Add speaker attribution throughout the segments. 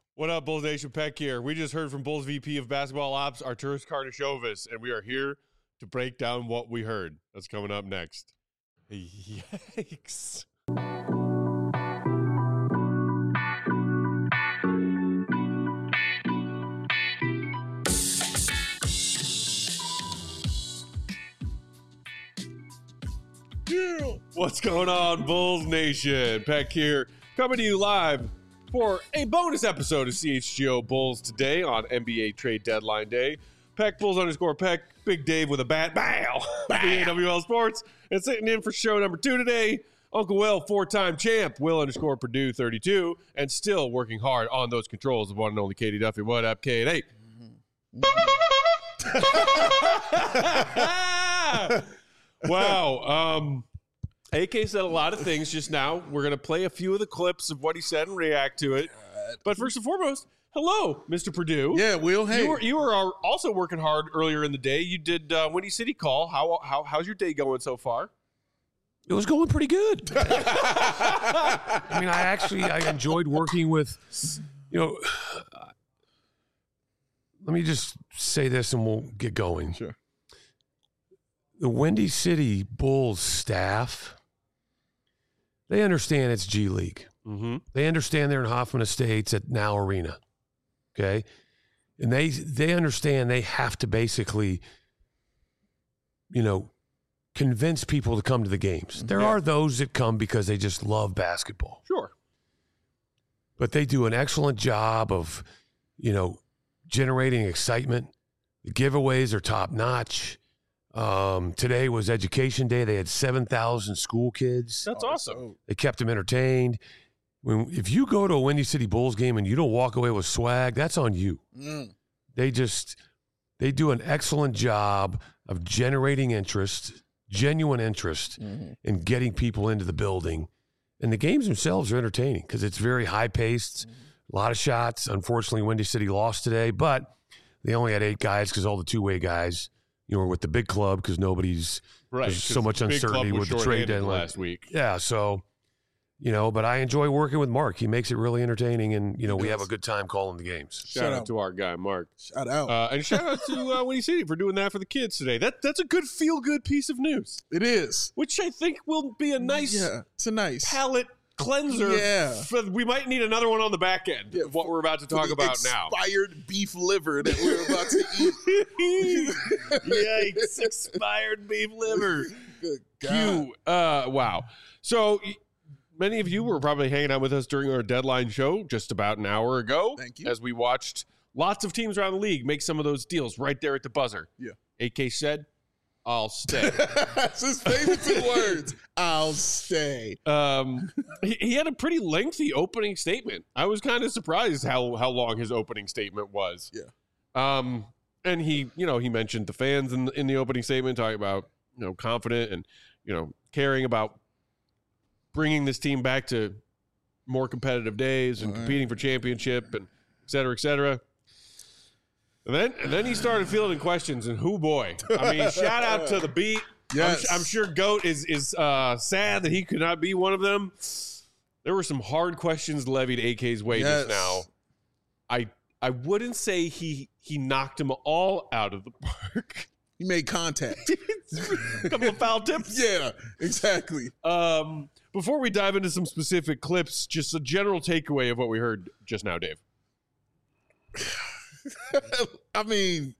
Speaker 1: What up, Bulls Nation? Peck here. We just heard from Bulls VP of Basketball Ops, Arturas Karnisovas, and we are here to break down what we heard. That's coming up next. Yikes. What's going on, Bulls Nation? Peck here, coming to you live for a bonus episode of CHGO Bulls today on NBA Trade Deadline Day. Peck Bulls _ Peck, Big Dave with a bat, bow, AWL Sports, and sitting in for show number 2 today, Uncle Will, 4-time champ, Will _ Purdue 32, and still working hard on those controls of one and only Katie Duffy. What up, Katie? Wow. AK said a lot of things just now. We're going to play a few of the clips of what he said and react to it. But first and foremost, hello, Mr. Purdue.
Speaker 2: Yeah, Will. Hey,
Speaker 1: you were also working hard earlier in the day. You did Windy City Call. How's your day going so far?
Speaker 3: It was going pretty good. I mean, I enjoyed working with, let me just say this and we'll get going.
Speaker 2: Sure.
Speaker 3: The Windy City Bulls staff, they understand it's G League.
Speaker 1: Mm-hmm.
Speaker 3: They understand they're in Hoffman Estates at Now Arena, okay? And they understand they have to basically, convince people to come to the games. There are those that come because they just love basketball.
Speaker 1: Sure.
Speaker 3: But they do an excellent job of, generating excitement. The giveaways are top-notch. Today was Education Day. They had 7,000 school kids.
Speaker 1: That's awesome.
Speaker 3: They kept them entertained. If you go to a Windy City Bulls game and you don't walk away with swag, that's on you. They do an excellent job of generating interest, genuine interest, in getting people into the building. And the games themselves are entertaining because it's very high-paced, a lot of shots. Unfortunately, Windy City lost today, but they only had 8 guys because all the two-way guys were with the big club because there's so much uncertainty with the trade deadline
Speaker 1: last week.
Speaker 3: Yeah, so, but I enjoy working with Mark. He makes it really entertaining, and, we have a good time calling the games.
Speaker 1: Shout out to our guy, Mark.
Speaker 2: Shout out.
Speaker 1: And shout out to Windy City for doing that for the kids today. That's a good feel-good piece of news.
Speaker 2: It is.
Speaker 1: Which I think will be a nice,
Speaker 2: it's a nice
Speaker 1: palate cleanser.
Speaker 2: Yeah.
Speaker 1: We might need another one on the back end of what we're about to talk about now.
Speaker 2: Expired beef liver that we're about to eat.
Speaker 1: Yikes, expired beef liver.
Speaker 2: Good God.
Speaker 1: Wow. So many of you were probably hanging out with us during our deadline show just about an hour ago.
Speaker 2: Thank you.
Speaker 1: As we watched lots of teams around the league make some of those deals right there at the buzzer.
Speaker 2: Yeah.
Speaker 1: AK said, I'll stay.
Speaker 2: That's his favorite 2 words. I'll stay.
Speaker 1: He had a pretty lengthy opening statement. I was kind of surprised how long his opening statement was.
Speaker 2: Yeah.
Speaker 1: And he mentioned the fans in the opening statement, talking about, confident and, caring about bringing this team back to more competitive days and competing for championship and et cetera, et cetera. And then he started fielding questions, and boy. I mean, shout out to the beat.
Speaker 2: Yes.
Speaker 1: I'm sure Goat is sad that he could not be one of them. There were some hard questions levied AK's way just now. I wouldn't say he knocked them all out of the park.
Speaker 2: He made contact.
Speaker 1: A couple of foul tips.
Speaker 2: Yeah, exactly.
Speaker 1: Before we dive into some specific clips, just a general takeaway of what we heard just now, Dave.
Speaker 2: I mean,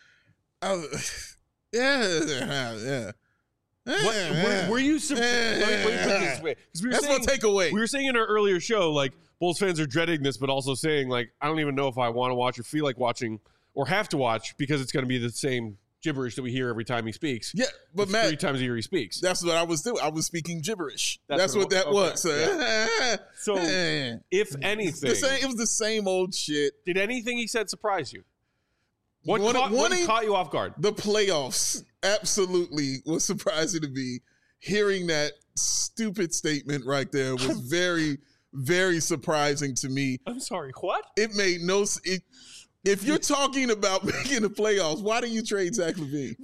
Speaker 2: yeah.
Speaker 1: Were you? Let me put it this way.
Speaker 2: That's my takeaway.
Speaker 1: We were saying in our earlier show, like, Bulls fans are dreading this, but also saying, like, I don't even know if I want to watch or feel like watching or have to watch because it's going to be the same gibberish that we hear every time he speaks.
Speaker 2: Yeah, but Matt,
Speaker 1: 3 times a year he speaks.
Speaker 2: That's what I was doing. I was speaking gibberish. That's what that
Speaker 1: okay.
Speaker 2: was.
Speaker 1: So, if anything,
Speaker 2: it was the same old shit.
Speaker 1: Did anything he said surprise you? What caught you off guard?
Speaker 2: The playoffs absolutely was surprising to me. Hearing that stupid statement right there was very, very surprising to me.
Speaker 1: I'm sorry, what?
Speaker 2: It made no sense. If you're talking about making the playoffs, why do you trade Zach LaVine?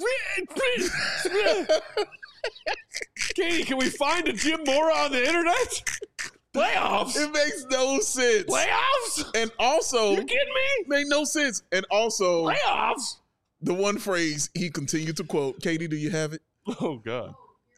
Speaker 1: Katie, can we find a Jim Mora on the internet? Playoffs?
Speaker 2: It makes no sense.
Speaker 1: Playoffs?
Speaker 2: And also,
Speaker 1: You kidding me?
Speaker 2: made no sense. And also,
Speaker 1: Playoffs?
Speaker 2: the one phrase he continued to quote. Katie, do you have it?
Speaker 1: Oh, God.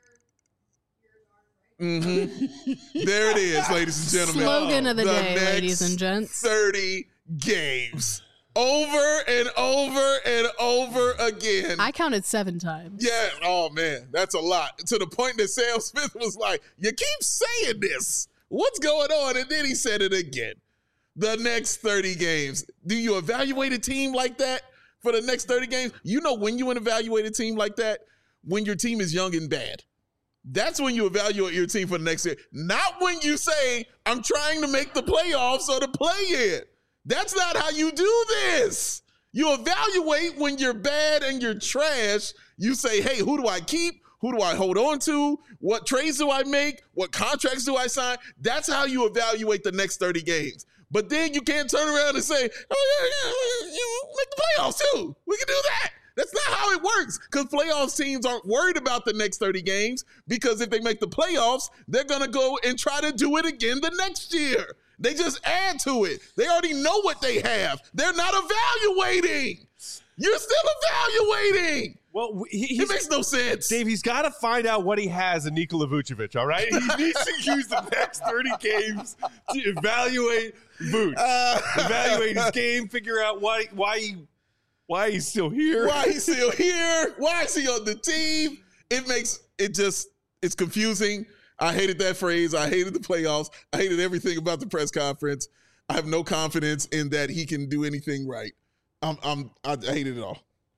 Speaker 2: Mm-hmm. There it is, ladies and gentlemen.
Speaker 4: Slogan of the day,
Speaker 2: next
Speaker 4: ladies and gents.
Speaker 2: 30 games. Over and over and over again.
Speaker 4: I counted 7 times.
Speaker 2: Yeah. Oh, man. That's a lot. To the point that Sam Smith was like, you keep saying this. What's going on? And then he said it again. The next 30 games. Do you evaluate a team like that for the next 30 games? You know when you evaluate a team like that? When your team is young and bad. That's when you evaluate your team for the next year. Not when you say, I'm trying to make the playoffs or the play-in. That's not how you do this. You evaluate when you're bad and you're trash. You say, hey, who do I keep? Who do I hold on to? What trades do I make? What contracts do I sign? That's how you evaluate the next 30 games. But then you can't turn around and say, oh, yeah, make the playoffs too. We can do that. That's not how it works, because playoffs teams aren't worried about the next 30 games, because if they make the playoffs, they're going to go and try to do it again the next year. They just add to it. They already know what they have. They're not evaluating. You're still evaluating.
Speaker 1: Well,
Speaker 2: it makes no sense.
Speaker 1: Dave, he's got to find out what he has in Nikola Vucevic, all right? He needs to use the next 30 games to evaluate Vuce. Evaluate his game, figure out why he's still here.
Speaker 2: Why he's still here. Why is he on the team? It's confusing. I hated that phrase. I hated the playoffs. I hated everything about the press conference. I have no confidence in that he can do anything right. I hated it all.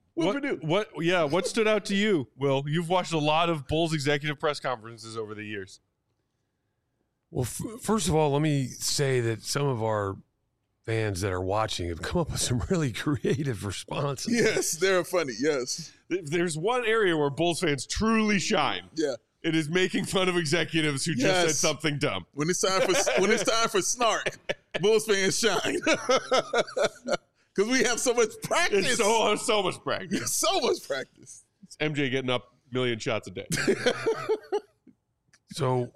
Speaker 1: What stood out to you, Will? You've watched a lot of Bulls executive press conferences over the years.
Speaker 3: Well, first of all, let me say that some of our fans that are watching have come up with some really creative responses.
Speaker 2: Yes, they're funny. Yes.
Speaker 1: There's one area where Bulls fans truly shine.
Speaker 2: Yeah.
Speaker 1: It is making fun of executives who just said something dumb.
Speaker 2: When it's time for snark, Bulls fans shine. Because we have so much practice.
Speaker 1: It's so much practice.
Speaker 2: So much practice.
Speaker 1: It's MJ getting up a million shots a day.
Speaker 3: So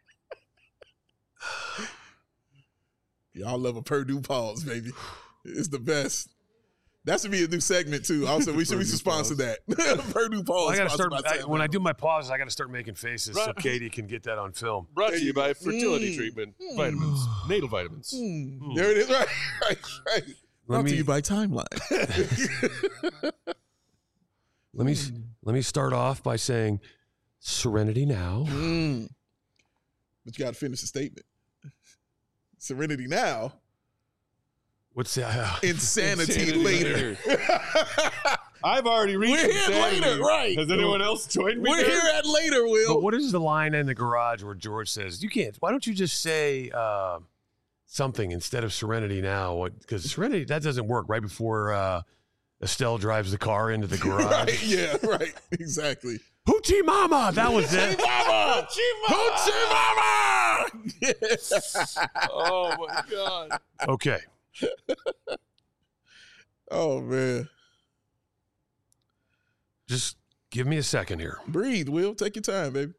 Speaker 2: y'all love a Purdue pause, baby. It's the best. That should be a new segment too. Also, we should sponsor that. Purdue pause.
Speaker 3: I got to start when I do my pauses. I got to start making faces so Katie can get that on film.
Speaker 1: Brought to you by fertility treatment, vitamins, natal vitamins.
Speaker 2: There it is. Right. Brought to you by Timeline.
Speaker 3: Let me start off by saying, serenity now.
Speaker 2: But you got to finish the statement. Serenity now.
Speaker 3: What's that?
Speaker 2: Insanity later.
Speaker 1: I've already reached
Speaker 2: We're here
Speaker 1: insanity.
Speaker 2: later, right.
Speaker 1: Has anyone else joined me?
Speaker 2: We're here at later, Will.
Speaker 3: But what is the line in the garage where George says, you can't, why don't you just say something instead of serenity now? Because serenity, that doesn't work right before Estelle drives the car into the garage.
Speaker 2: Right, yeah, right. Exactly.
Speaker 3: Hoochie Mama! That was it.
Speaker 2: Mama! Hoochie Mama!
Speaker 1: Oh, my God.
Speaker 3: Okay.
Speaker 2: Oh, man.
Speaker 3: Just give me a second here.
Speaker 2: Breathe, Will. Take your time, baby.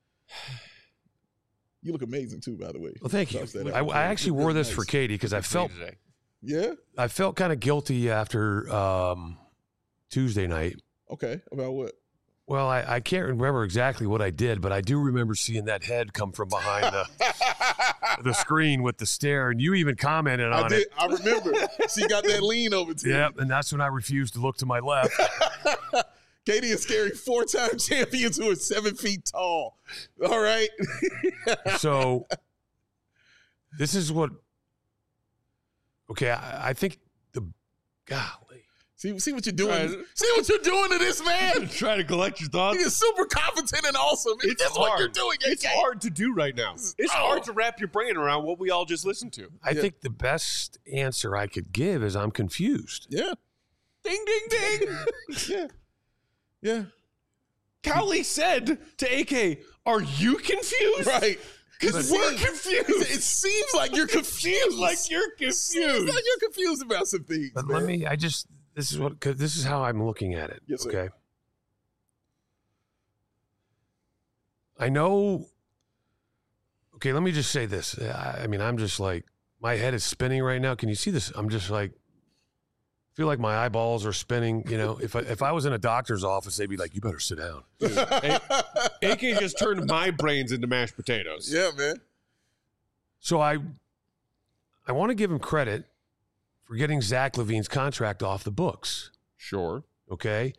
Speaker 2: You look amazing, too, by the way.
Speaker 3: Well, thank you. I actually wore this for Katie because I felt kind of guilty after Tuesday night.
Speaker 2: Okay. About what?
Speaker 3: Well, I can't remember exactly what I did, but I do remember seeing that head come from behind the screen with the stare, and you even commented on it.
Speaker 2: I remember. She got that lean over to you.
Speaker 3: Yep, and that's when I refused to look to my left.
Speaker 2: Katie is scaring 4-time champions who are 7 feet tall. All right.
Speaker 3: So this is what. Okay, I think golly.
Speaker 2: See what you're doing. See what you're doing to this man.
Speaker 1: Trying to collect your thoughts.
Speaker 2: He is super competent and awesome.
Speaker 1: It's
Speaker 2: hard.
Speaker 1: What you're
Speaker 2: doing.
Speaker 1: It's hard to do right now. It's hard to wrap your brain around what we all just listened to.
Speaker 3: I think the best answer I could give is I'm confused.
Speaker 2: Yeah.
Speaker 1: Ding, ding, ding.
Speaker 2: Yeah.
Speaker 1: Cowley said to AK, "Are you confused?"
Speaker 2: Right.
Speaker 1: Because we're confused.
Speaker 2: It seems like you're confused.
Speaker 1: You're
Speaker 2: confused about some things.
Speaker 3: But
Speaker 2: man.
Speaker 3: this is how I'm looking at it.
Speaker 2: Yes, sir.
Speaker 3: Okay. I know. okay, let me just say this. I mean, I'm just like, my head is spinning right now. Can you see this? I'm just like, feel like my eyeballs are spinning. You know, if I was in a doctor's office, they'd be like, you better sit down.
Speaker 1: AK just turned my brains into mashed potatoes.
Speaker 2: Yeah, man.
Speaker 3: So I want to give him credit for getting Zach LaVine's contract off the books.
Speaker 1: Sure.
Speaker 3: Okay.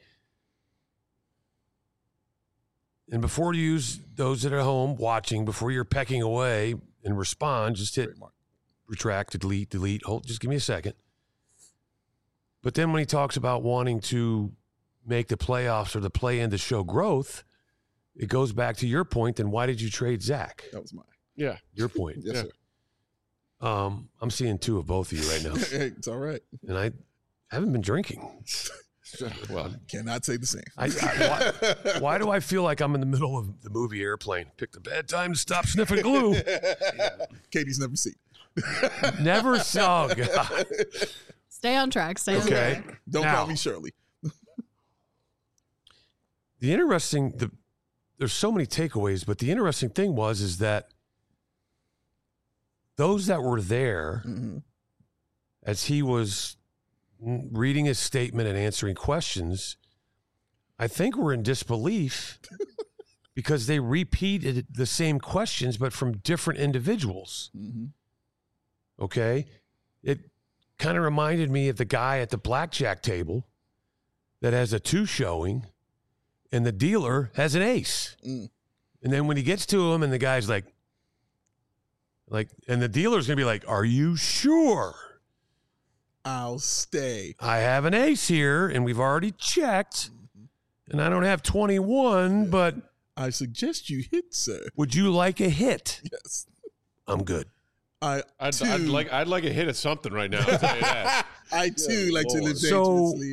Speaker 3: And before you use those that are home watching, before you're pecking away and respond, just hit retract, delete, hold, just give me a second. But then when he talks about wanting to make the playoffs or the play-in to show growth, it goes back to your point. Then why did you trade Zach?
Speaker 2: That was mine.
Speaker 1: Yeah.
Speaker 3: Your point.
Speaker 2: Yes, sir.
Speaker 3: I'm seeing two of both of you right now.
Speaker 2: Hey, it's all right.
Speaker 3: And I haven't been drinking.
Speaker 1: Well,
Speaker 2: Cannot say the same.
Speaker 3: Why do I feel like I'm in the middle of the movie Airplane? Pick the bad time to stop sniffing glue.
Speaker 2: Katie's never seen.
Speaker 3: Never saw. God.
Speaker 4: Stay on track. Stay on
Speaker 3: Okay.
Speaker 4: track.
Speaker 2: Don't
Speaker 3: Now,
Speaker 2: call me Shirley.
Speaker 3: There's so many takeaways, but the interesting thing is that those that were there as he was reading his statement and answering questions, I think were in disbelief because they repeated the same questions, but from different individuals. Okay. It kind of reminded me of the guy at the blackjack table that has a 2 showing and the dealer has an ace. And then when he gets to him and the guy's like, and the dealer's going to be like, are you sure?
Speaker 2: I'll stay.
Speaker 3: I have an ace here and we've already checked and I don't have 21, but
Speaker 2: I suggest you hit, sir.
Speaker 3: would you like a hit?
Speaker 2: Yes.
Speaker 3: I'm good.
Speaker 1: I'd like a hit of something right now. I'll tell you that.
Speaker 2: I too like to live
Speaker 3: So-
Speaker 2: dangerously.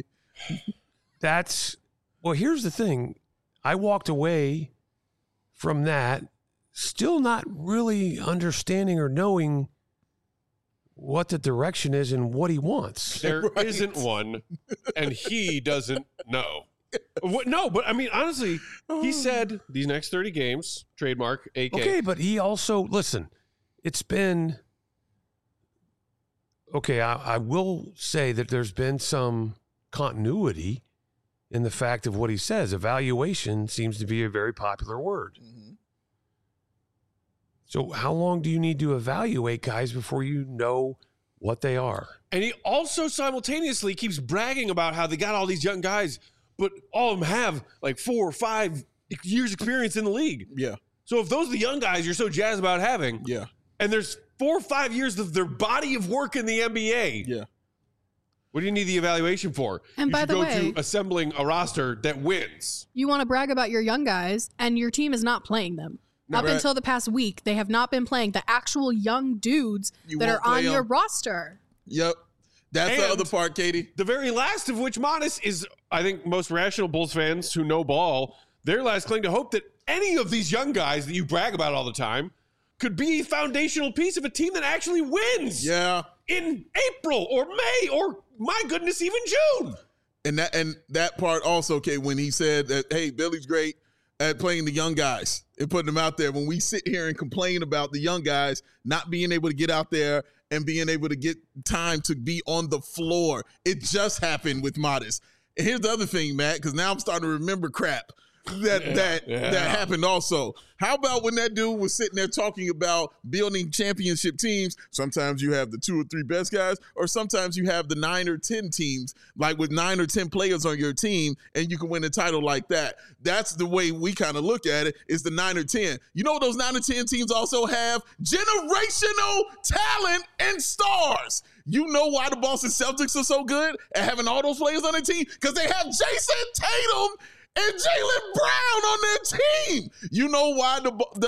Speaker 3: Here's the thing. I walked away from that still not really understanding or knowing what the direction is and what he wants.
Speaker 1: There not one, and he doesn't know. No, but I mean, honestly, he said these next 30 games, trademark, AK.
Speaker 3: Okay, but he also, listen, it's been, okay, I will say that there's been some continuity in the fact of what he says. Evaluation seems to be a very popular word. So how long do you need to evaluate guys before you know what they are?
Speaker 1: And he also simultaneously keeps bragging about how they got all these young guys, but all of them have like 4 or 5 years experience in the league.
Speaker 2: Yeah.
Speaker 1: So if those are the young guys you're so jazzed about having,
Speaker 2: Yeah.
Speaker 1: and there's 4 or 5 years of their body of work in the NBA,
Speaker 2: Yeah.
Speaker 1: what do you need the evaluation for?
Speaker 4: And
Speaker 1: you
Speaker 4: by
Speaker 1: should
Speaker 4: the
Speaker 1: go
Speaker 4: way-
Speaker 1: to assembling a roster that wins.
Speaker 4: You want to brag about your young guys, and your team is not playing them. Up
Speaker 2: Right.
Speaker 4: until the past week, they have not been playing the actual young dudes
Speaker 2: You
Speaker 4: that
Speaker 2: won't
Speaker 4: are on
Speaker 2: play
Speaker 4: your
Speaker 2: 'em.
Speaker 4: roster.
Speaker 2: Yep. That's the
Speaker 1: And-
Speaker 2: other part, Katie.
Speaker 1: The very last of which, Modest, is, I think, most rational Bulls fans who know ball, their last cling to hope that any of these young guys that you brag about all the time could be a foundational piece of a team that actually wins
Speaker 2: Yeah.
Speaker 1: in April or May or, my goodness, even June.
Speaker 2: And that part also, okay, when he said that, hey, Billy's great at playing the young guys and putting them out there. When we sit here and complain about the young guys not being able to get out there and being able to get time to be on the floor, it just happened with Modest. And here's the other thing, Matt, because now I'm starting to remember crap that happened also. How about when that dude was sitting there talking about building championship teams? Sometimes you have the 2 or 3 best guys, or sometimes you have the 9 or 10 teams, like with 9 or 10 players on your team, and you can win a title like that. That's the way we kind of look at it, is the 9 or 10. You know, those 9 or 10 teams also have generational talent and stars. You know why the Boston Celtics are so good at having all those players on their team? Because they have Jason Tatum and Jaylen Brown on their team. You know why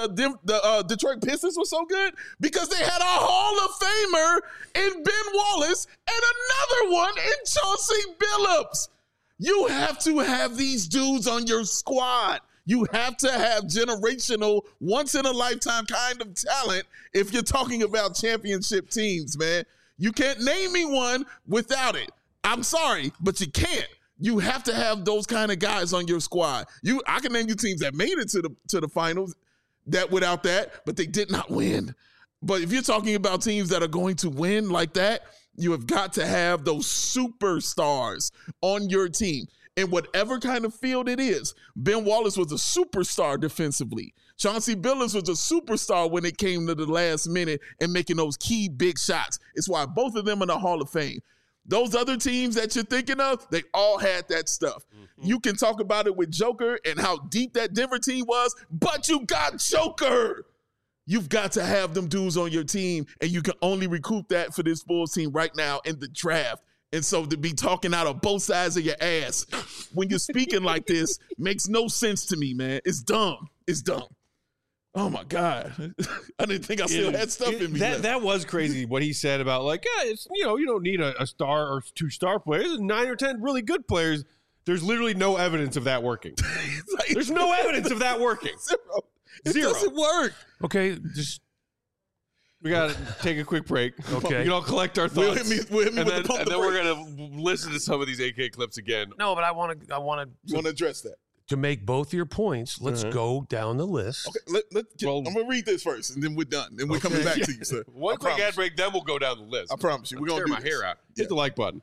Speaker 2: the Detroit Pistons were so good? Because they had a Hall of Famer in Ben Wallace and another one in Chauncey Billups. You have to have these dudes on your squad. You have to have generational, once-in-a-lifetime kind of talent if you're talking about championship teams, man. You can't name me one without it. I'm sorry, but you can't. You have to have those kind of guys on your squad. I can name you teams that made it to the finals that without that, but they did not win. But if you're talking about teams that are going to win like that, you have got to have those superstars on your team. In whatever kind of field it is. Ben Wallace was a superstar defensively. Chauncey Billups was a superstar when it came to the last minute and making those key big shots. It's why both of them in the Hall of Fame. Those other teams that you're thinking of, they all had that stuff. Mm-hmm. You can talk about it with Joker and how deep that Denver team was, but you got Joker. You've got to have them dudes on your team, and you can only recoup that for this Bulls team right now in the draft. And so to be talking out of both sides of your ass when you're speaking like this makes no sense to me, man. It's dumb. It's dumb. Oh, my God. I didn't think I still had stuff in me.
Speaker 1: That was crazy what he said about, like, it's, you don't need a star or 2 star players. 9 or 10 really good players. There's literally no evidence of that working. There's no evidence of that working.
Speaker 2: Zero. It
Speaker 1: Zero.
Speaker 2: doesn't work.
Speaker 3: Okay, just
Speaker 1: we got to take a quick break.
Speaker 3: Okay.
Speaker 1: Collect our
Speaker 2: We'll
Speaker 1: thoughts.
Speaker 2: hit me with the pump
Speaker 1: and
Speaker 2: the
Speaker 1: then we're
Speaker 2: brakes.
Speaker 1: going to listen to some of these AK clips again.
Speaker 3: no, but I want
Speaker 2: You want to address that?
Speaker 3: to make both your points. Let's go down the list.
Speaker 2: Okay,
Speaker 1: Well-
Speaker 2: I'm going to read this first, and then we're done. And we're coming back to you, sir.
Speaker 1: One
Speaker 2: I
Speaker 1: quick
Speaker 2: promise
Speaker 1: ad break, then we'll go down the list.
Speaker 2: I promise you. We're going to
Speaker 1: tear
Speaker 2: do
Speaker 1: my hair out. Hit the like button.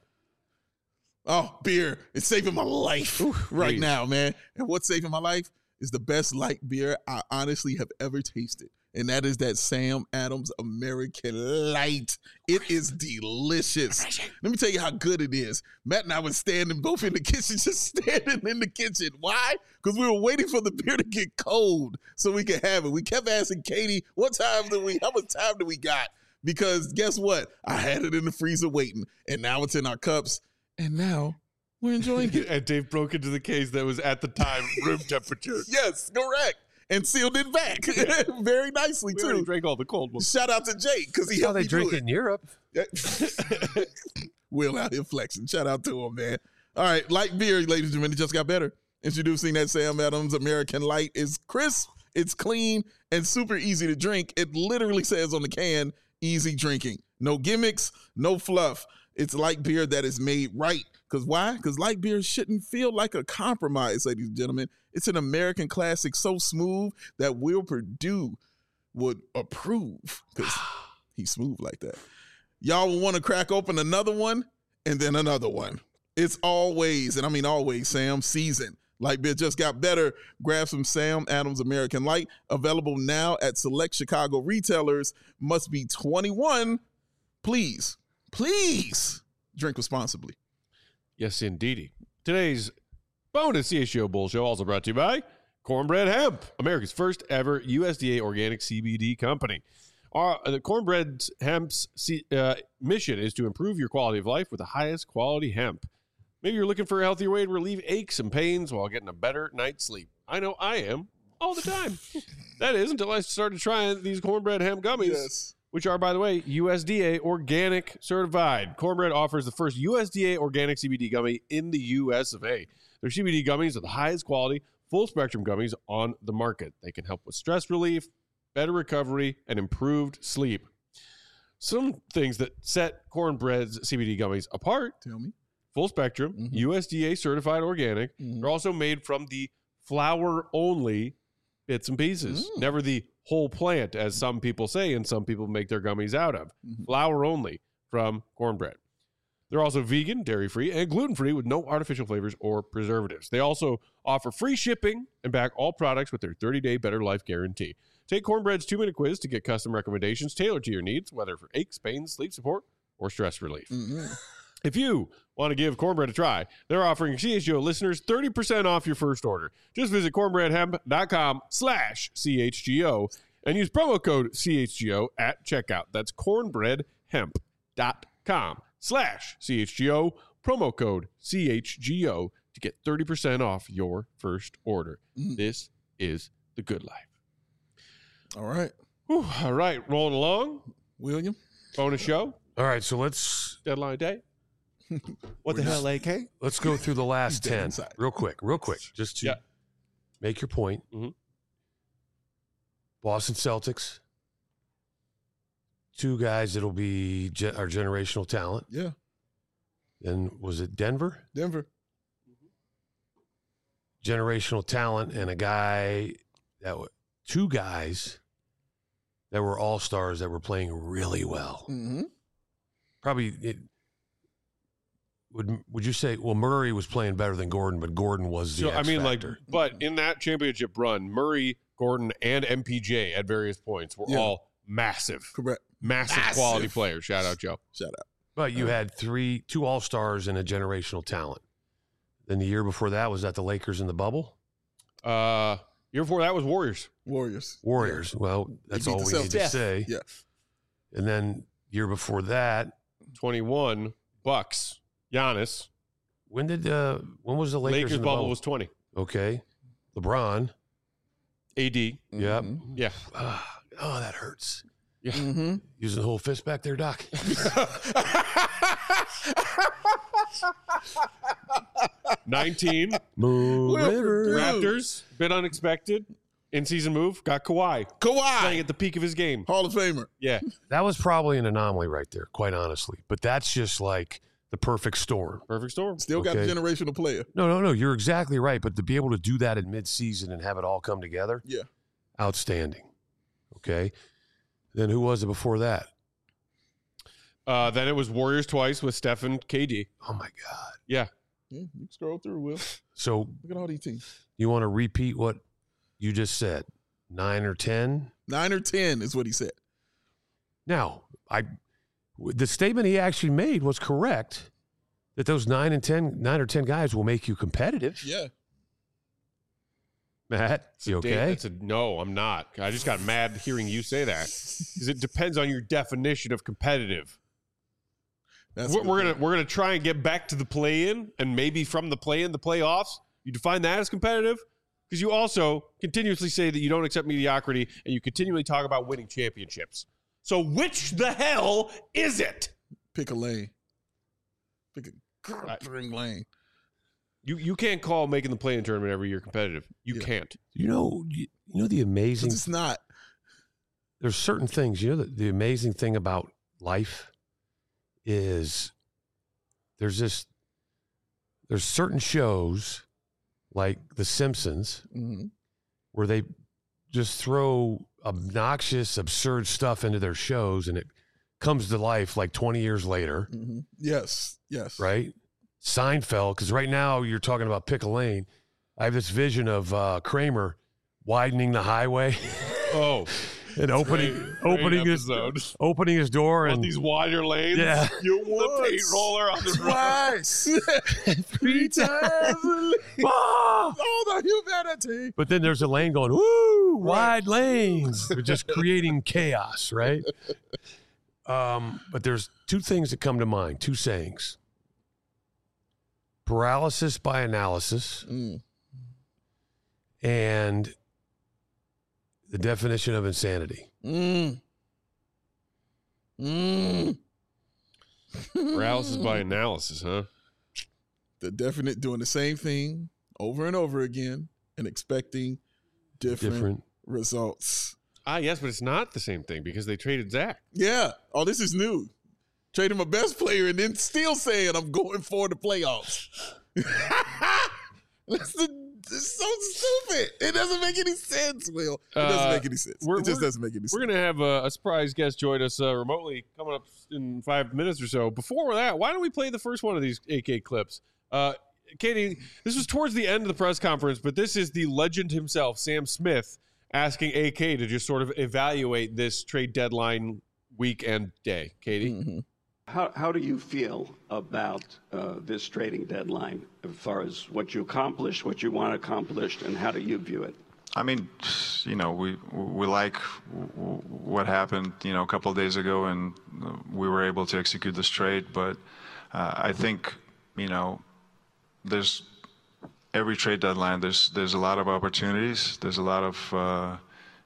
Speaker 2: Oh, beer. It's saving my life right
Speaker 1: please.
Speaker 2: now, man. And what's saving my life is the best light beer I honestly have ever tasted. And that is that Sam Adams American Light. It is delicious. Let me tell you how good it is. Matt and I were standing both in the kitchen, just standing in the kitchen. Why? Because we were waiting for the beer to get cold so we could have it. We kept asking Katie, how much time do we got? Because guess what? I had it in the freezer waiting, and now it's in our cups, and now we're enjoying it.
Speaker 1: And Dave broke into the case that was at the time room temperature.
Speaker 2: Yes, correct. And sealed it back very nicely,
Speaker 1: We already
Speaker 2: too.
Speaker 1: drank all the cold ones.
Speaker 2: Shout out to Jake because he
Speaker 3: How
Speaker 2: helped
Speaker 3: they
Speaker 2: me
Speaker 3: drink
Speaker 2: do
Speaker 3: it in Europe.
Speaker 2: it. Will out here flexing. Shout out to him, man. All right, light beer, ladies and gentlemen, it just got better. Introducing that Sam Adams American Light is crisp, it's clean, and super easy to drink. It literally says on the can, easy drinking. No gimmicks, no fluff. It's light beer that is made right. Because why? Because light beer shouldn't feel like a compromise, ladies and gentlemen. It's an American classic so smooth that Will Purdue would approve because he's smooth like that. Y'all will want to crack open another one and then another one. It's always, and I mean always, Sam, season. Light beer just got better. Grab some Sam Adams American Light. Available now at select Chicago retailers. Must be 21. Please drink responsibly.
Speaker 1: Yes, indeedy. Today's bonus CHGO Bull Show also brought to you by Cornbread Hemp, America's first ever USDA organic CBD company. The Cornbread Hemp's mission is to improve your quality of life with the highest quality hemp. Maybe you're looking for a healthier way to relieve aches and pains while getting a better night's sleep. I know I am all the time. That is until I started trying these Cornbread Hemp gummies.
Speaker 2: Yes.
Speaker 1: Which are, by the way, USDA organic certified. Cornbread offers the first USDA organic CBD gummy in the US of A. Their CBD gummies are the highest quality, full spectrum gummies on the market. They can help with stress relief, better recovery, and improved sleep. Some things that set Cornbread's CBD gummies apart:
Speaker 2: Tell me.
Speaker 1: full spectrum, USDA certified organic. They're also made from the flower only bits and pieces, never the whole plant, as some people say, and some people make their gummies out of. Flour only from Cornbread. They're also vegan, dairy-free, and gluten-free with no artificial flavors or preservatives. They also offer free shipping and back all products with their 30-day Better Life guarantee. Take Cornbread's 2-minute quiz to get custom recommendations tailored to your needs, whether for aches, pains, sleep support, or stress relief. If you want to give Cornbread a try, they're offering CHGO listeners 30% off your first order. Just visit cornbreadhemp.com/CHGO and use promo code CHGO at checkout. That's cornbreadhemp.com/CHGO, promo code CHGO to get 30% off your first order. This is the good life.
Speaker 2: All right.
Speaker 1: Whew, all right, rolling along.
Speaker 2: William?
Speaker 1: Bonus show,
Speaker 3: All right, so let's
Speaker 1: deadline day. What the hell, AK?
Speaker 3: let's go through the last
Speaker 2: He's dead
Speaker 3: 10
Speaker 2: inside.
Speaker 3: real quick, just to
Speaker 1: Yeah.
Speaker 3: make your point.
Speaker 1: Mhm.
Speaker 3: Boston Celtics, 2 guys that'll be our generational talent.
Speaker 2: Yeah.
Speaker 3: Then was it Denver?
Speaker 2: Denver.
Speaker 3: Generational talent and a guy that two guys that were all-stars that were playing really well.
Speaker 2: Mm-hmm.
Speaker 3: Probably would you say, well, Murray was playing better than Gordon, but Gordon was the X factor.
Speaker 1: but in that championship run, Murray, Gordon, and MPJ at various points were all massive.
Speaker 2: Correct.
Speaker 1: Massive quality players. Shout out, Joe.
Speaker 2: Shout out.
Speaker 3: But you had two all-stars and a generational talent. Then the year before that, was that the Lakers in the bubble?
Speaker 1: Year before that was Warriors.
Speaker 2: Warriors.
Speaker 3: Yeah. Well, that's all we need to say.
Speaker 2: Yeah.
Speaker 3: And then year before that,
Speaker 1: 21, Bucks, Giannis.
Speaker 3: when was the Lakers in the
Speaker 1: bubble was 20.
Speaker 3: Okay. LeBron.
Speaker 1: AD.
Speaker 3: Yep.
Speaker 1: Yeah.
Speaker 3: Oh, that hurts.
Speaker 1: Yeah.
Speaker 2: Mm-hmm.
Speaker 3: Using the whole fist back there, Doc.
Speaker 1: 19.
Speaker 3: Moon River.
Speaker 1: Raptors, bit unexpected. In-season move, got Kawhi. Playing at the peak of his game.
Speaker 2: Hall of Famer.
Speaker 1: Yeah.
Speaker 3: That was probably an anomaly right there, quite honestly. But that's just like the perfect storm.
Speaker 1: Perfect storm.
Speaker 2: Still got a generational player.
Speaker 3: No. You're exactly right. But to be able to do that in midseason and have it all come together, outstanding. Okay. Then who was it before that?
Speaker 1: Then it was Warriors twice with Steph and KD.
Speaker 3: Oh, my God.
Speaker 1: Yeah.
Speaker 2: You can scroll through, Will.
Speaker 3: So
Speaker 2: Look at all these teams.
Speaker 3: you want to repeat what you just said? 9 or 10?
Speaker 2: 9 or 10 is what he said.
Speaker 3: Now, the statement he actually made was correct, that those 9 or 10 guys will make you competitive.
Speaker 2: Yeah.
Speaker 3: Matt, you okay?
Speaker 1: No, I'm not. I just got mad hearing you say that because it depends on your definition of competitive. We're gonna try and get back to the play-in, and maybe from the play-in, the playoffs. You define that as competitive because you also continuously say that you don't accept mediocrity, and you continually talk about winning championships. So which the hell is it?
Speaker 2: Pick a lane. Pick a lane.
Speaker 1: You can't call making the play-in tournament every year competitive. You can't.
Speaker 3: You know the amazing.
Speaker 2: It's not.
Speaker 3: There's certain things. You know the amazing thing about life is there's certain shows like The Simpsons where they just throw obnoxious, absurd stuff into their shows, and it comes to life like 20 years later.
Speaker 2: Mm-hmm. Yes.
Speaker 3: Right. Seinfeld, because right now you're talking about pick a lane. I have this vision of Kramer widening the highway.
Speaker 1: Oh,
Speaker 3: and opening his door and
Speaker 1: these wider lanes.
Speaker 3: Yeah,
Speaker 1: you want the paint roller on the
Speaker 2: twice, 3 times. Oh, the humanity!
Speaker 3: But then there's a lane going, woo, wide lanes. We're just creating chaos, right? But there's two things that come to mind, two sayings. Paralysis by analysis and the definition of insanity.
Speaker 1: Paralysis by analysis, huh?
Speaker 2: The definite doing the same thing over and over again and expecting different results.
Speaker 1: Yes, but it's not the same thing because they traded Zach.
Speaker 2: Yeah. Oh, this is new. Trading my best player and then still saying I'm going for the playoffs. It's so stupid. It doesn't make any sense, Will. It doesn't make any sense. It just doesn't make any sense.
Speaker 1: We're going to have a surprise guest join us remotely coming up in 5 minutes or so. Before that, why don't we play the first one of these AK clips? Katie, this was towards the end of the press conference, but this is the legend himself, Sam Smith, asking AK to just sort of evaluate this trade deadline week and day. Katie?
Speaker 2: Mm-hmm.
Speaker 5: How do you feel about this trading deadline as far as what you accomplished, what you want accomplished, and how do you view it?
Speaker 6: I mean, we like what happened, a couple of days ago, and we were able to execute this trade. But I think, there's every trade deadline. There's a lot of opportunities. There's a lot of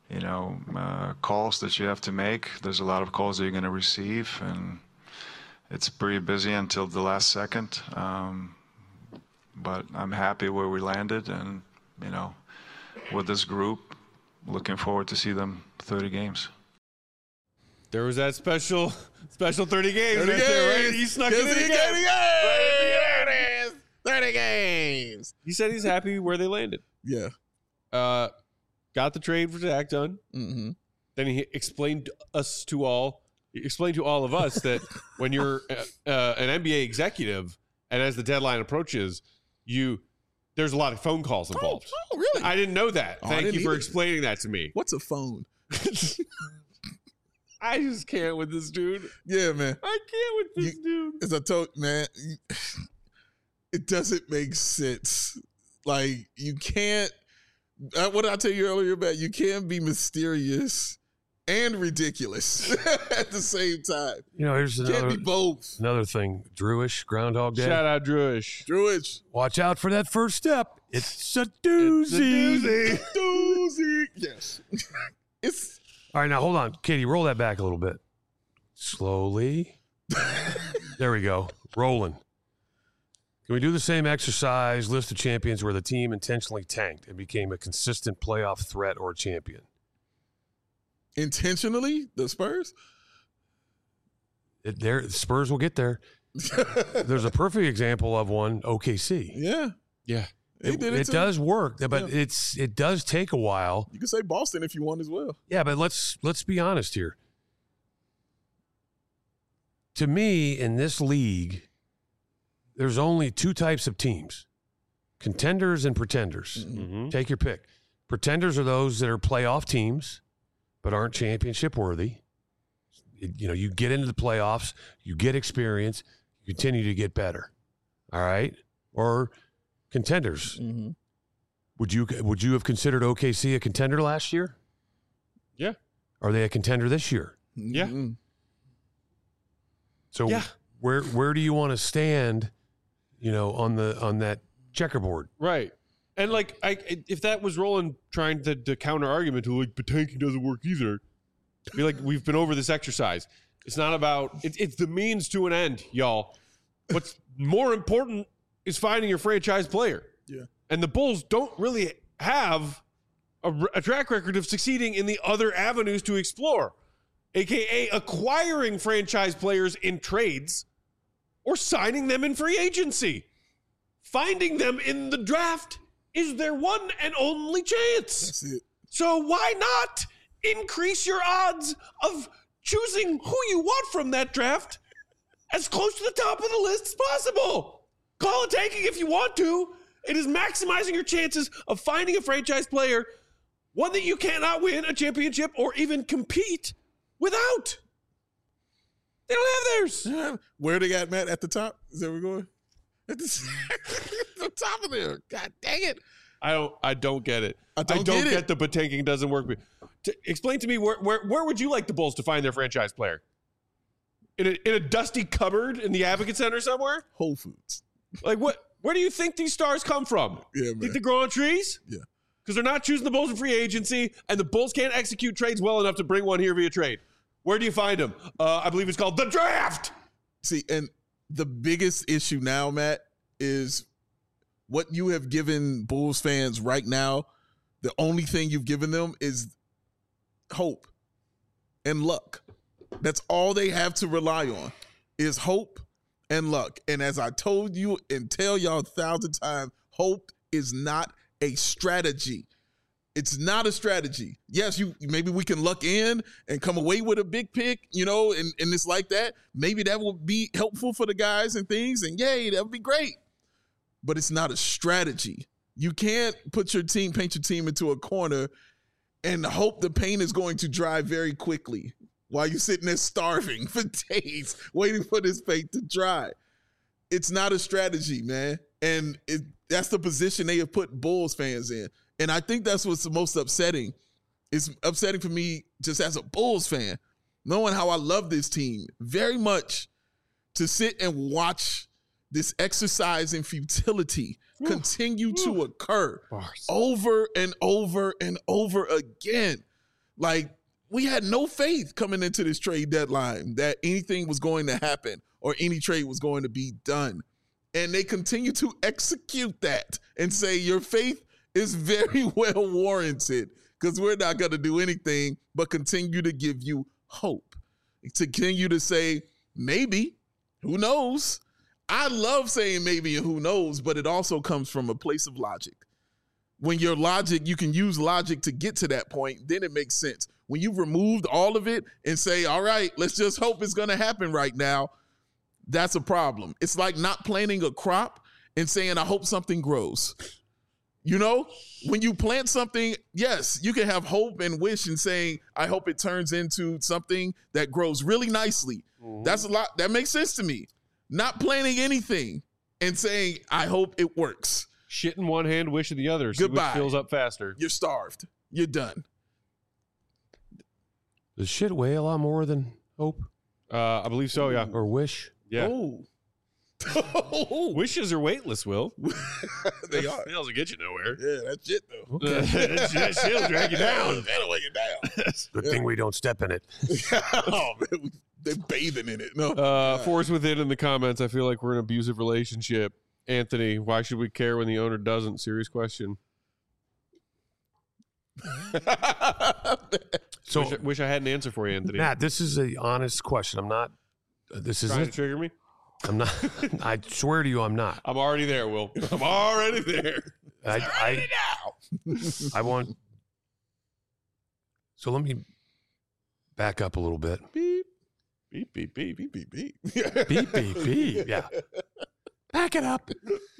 Speaker 6: calls that you have to make. There's a lot of calls that you're going to receive, and it's pretty busy until the last second. But I'm happy where we landed, and with this group, looking forward to see them 30 games.
Speaker 1: There was that special 30 games right there, right? He snuck it in again. 30 games. He said he's happy where they landed.
Speaker 2: Yeah.
Speaker 1: Got got the trade for Zach done.
Speaker 2: Mm-hmm.
Speaker 1: Then he explained to all of us that when you're an NBA executive and as the deadline approaches, there's a lot of phone calls involved.
Speaker 2: Oh, really?
Speaker 1: I didn't know that.
Speaker 2: Oh,
Speaker 1: Thank you for explaining that to me.
Speaker 2: What's a phone?
Speaker 1: I just can't with this dude.
Speaker 2: Yeah, man.
Speaker 1: I can't with this dude.
Speaker 2: As I told, man, it doesn't make sense. Like, you can't, what did I tell you earlier about? You can't be mysterious and ridiculous at the same time.
Speaker 3: You know, here's
Speaker 2: Can't be both.
Speaker 3: another thing. Drewish, Groundhog Day.
Speaker 1: Shout out Drewish.
Speaker 2: Druidge.
Speaker 3: Watch out for that first step. It's a doozy.
Speaker 2: Doozy. Yes. It's
Speaker 3: All right, now hold on. Katie, roll that back a little bit. Slowly. There we go. Rolling. Can we do the same exercise, list of champions where the team intentionally tanked and became a consistent playoff threat or champion?
Speaker 2: intentionally, the Spurs.
Speaker 3: Spurs will get there. There's a perfect example of one, OKC.
Speaker 2: Yeah.
Speaker 1: Yeah.
Speaker 2: They did it
Speaker 3: It
Speaker 2: too.
Speaker 3: does work, but
Speaker 2: Yeah.
Speaker 3: it does take a while.
Speaker 2: You can say Boston if you want as well.
Speaker 3: Yeah, but let's be honest here. To me, in this league, there's only two types of teams: contenders and pretenders.
Speaker 1: Mm-hmm.
Speaker 3: Take your pick. Pretenders are those that are playoff teams but aren't championship worthy. You get into the playoffs, you get experience, you continue to get better. All right? Or contenders.
Speaker 2: Mm-hmm.
Speaker 3: Would you have considered OKC a contender last year?
Speaker 1: Yeah.
Speaker 3: Are they a contender this year?
Speaker 1: Yeah.
Speaker 2: Mm-hmm.
Speaker 3: So
Speaker 1: Yeah.
Speaker 3: where do you want to stand, on that checkerboard?
Speaker 1: Right. And if that was Roland trying to counter argument to but tanking doesn't work either, be like, we've been over this exercise. It's not about it's the means to an end, y'all. What's more important is finding your franchise player.
Speaker 2: Yeah.
Speaker 1: And the Bulls don't really have a track record of succeeding in the other avenues to explore, aka acquiring franchise players in trades or signing them in free agency. Finding them in the draft is their one and only chance.
Speaker 2: That's it.
Speaker 1: So why not increase your odds of choosing who you want from that draft as close to the top of the list as possible? Call it tanking if you want to. It is maximizing your chances of finding a franchise player, one that you cannot win a championship or even compete without. They don't have theirs.
Speaker 2: Where they got Matt at the top? Is that where we're going? At the top of there. God dang it.
Speaker 1: I don't get it.
Speaker 2: I don't get it.
Speaker 1: the but tanking doesn't work. Explain to me where would you like the Bulls to find their franchise player? In a dusty cupboard in the Advocate Center somewhere?
Speaker 2: Whole Foods.
Speaker 1: Like what? Where do you think these stars come from?
Speaker 2: Yeah, man.
Speaker 1: Think they grow on trees?
Speaker 2: Yeah.
Speaker 1: Because they're not choosing the Bulls in free agency, and the Bulls can't execute trades well enough to bring one here via trade. Where do you find them? I believe it's called the draft.
Speaker 2: See, and the biggest issue now, Matt, is what you have given Bulls fans right now. The only thing you've given them is hope and luck. That's all they have to rely on is hope and luck. And as I told you and tell y'all 1,000 times, hope is not a strategy. It's not a strategy. Yes, maybe we can luck in and come away with a big pick, and it's like that. Maybe that will be helpful for the guys and things, and yay, that would be great. But it's not a strategy. You can't paint your team into a corner and hope the paint is going to dry very quickly while you're sitting there starving for days, waiting for this paint to dry. It's not a strategy, man. And that's the position they have put Bulls fans in. And I think that's what's the most upsetting. It's upsetting for me just as a Bulls fan, knowing how I love this team very much, to sit and watch this exercise in futility continue to occur over and over and over again. Like, we had no faith coming into this trade deadline that anything was going to happen or any trade was going to be done. And they continue to execute that and say your faith is very well warranted, because we're not going to do anything but continue to give you hope. To continue to say, maybe, who knows? I love saying maybe and who knows, but it also comes from a place of logic. When your logic, you can use logic to get to that point, then it makes sense. When you've removed all of it and say, all right, let's just hope it's going to happen right now, that's a problem. It's like not planting a crop and saying, I hope something grows. You know, when you plant something, yes, you can have hope and wish and saying, I hope it turns into something that grows really nicely. Mm-hmm. That's a lot. That makes sense to me. Not planting anything and saying, I hope it works.
Speaker 1: Shit in one hand, wish in the other.
Speaker 2: Goodbye.
Speaker 1: Which fills up faster.
Speaker 2: You're starved. You're done.
Speaker 3: Does shit weigh a lot more than hope?
Speaker 1: I believe so, yeah.
Speaker 3: Or wish?
Speaker 1: Yeah.
Speaker 2: Oh.
Speaker 1: Wishes are weightless, Will.
Speaker 2: They are.
Speaker 1: It doesn't get you nowhere.
Speaker 2: Yeah, that's shit, though.
Speaker 3: Okay.
Speaker 1: That shit'll drag you down.
Speaker 2: That'll weigh you down.
Speaker 3: Good thing we don't step in it.
Speaker 2: Oh, man, they're bathing in it. No.
Speaker 1: Force Within in the comments, I feel like we're in an abusive relationship. Anthony, why should we care when the owner doesn't? Serious question.
Speaker 3: So,
Speaker 1: wish I had an answer for you, Anthony.
Speaker 3: Matt, this is an honest question. I'm not. This
Speaker 1: Trying to
Speaker 3: isn't.
Speaker 1: trigger me?
Speaker 3: I'm not. I swear to you, I'm not.
Speaker 1: I'm already there, Will. I'm already there.
Speaker 3: I want. So let me back up a little bit.
Speaker 1: Beep, beep, beep, beep, beep, beep, beep.
Speaker 3: Beep, beep, beep. Yeah. Back it up.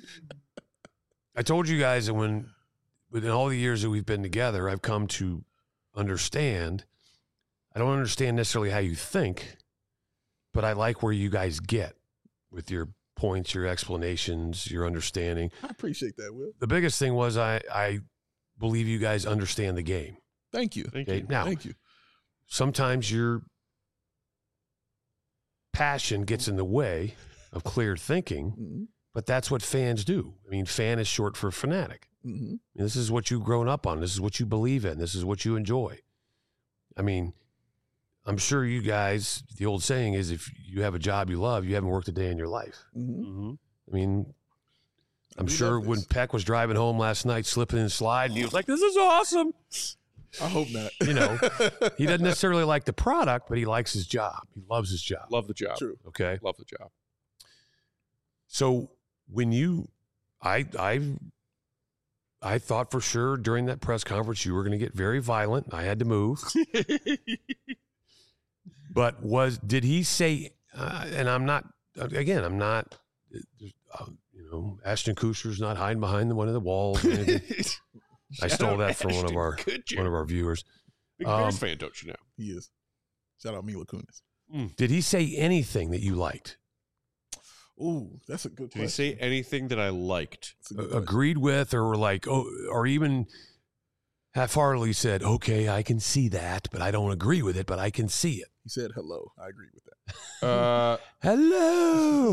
Speaker 3: I told you guys that within all the years that we've been together, I've come to understand. I don't understand necessarily how you think, but I like where you guys get with your points, your explanations, your understanding.
Speaker 2: I appreciate that, Will.
Speaker 3: The biggest thing was I believe you guys understand the game.
Speaker 2: Thank you.
Speaker 1: Thank
Speaker 3: Okay?
Speaker 1: you.
Speaker 3: Now,
Speaker 2: Thank you.
Speaker 3: sometimes your passion gets in the way of clear thinking,
Speaker 2: Mm-hmm.
Speaker 3: but that's what fans do. I mean, fan is short for fanatic.
Speaker 2: Mm-hmm.
Speaker 3: I mean, this is what you've grown up on. This is what you believe in. This is what you enjoy. I mean, I'm sure you guys, the old saying is, if you have a job you love, you haven't worked a day in your life.
Speaker 2: Mm-hmm.
Speaker 1: Mm-hmm.
Speaker 3: I mean, I'm
Speaker 2: We
Speaker 3: sure
Speaker 2: love
Speaker 3: when
Speaker 2: this.
Speaker 3: Peck was driving home last night, slipping and sliding, he was like, this is awesome.
Speaker 2: I hope not.
Speaker 3: You know, he doesn't necessarily like the product, but he likes his job. He loves his job.
Speaker 1: Love the job.
Speaker 2: True.
Speaker 3: Okay.
Speaker 1: Love the job.
Speaker 3: So when I thought for sure during that press conference you were going to get very violent. I had to move. But did he say? And I'm not. Again, I'm not. Ashton Kutcher's not hiding behind one of the walls. or anything. I stole that from one of our viewers.
Speaker 1: Big Bears fan, don't you know?
Speaker 2: He is. Shout out Mila Kunis.
Speaker 3: Did he say anything that you liked?
Speaker 2: Ooh, that's a good
Speaker 1: Did he
Speaker 2: question.
Speaker 1: say anything that I liked?
Speaker 2: That's a good question.
Speaker 3: Agreed with, or like, or even half-heartedly said, "Okay, I can see that, but I don't agree with it, but I can see it."
Speaker 2: He said hello. I agree with that.
Speaker 3: Hello,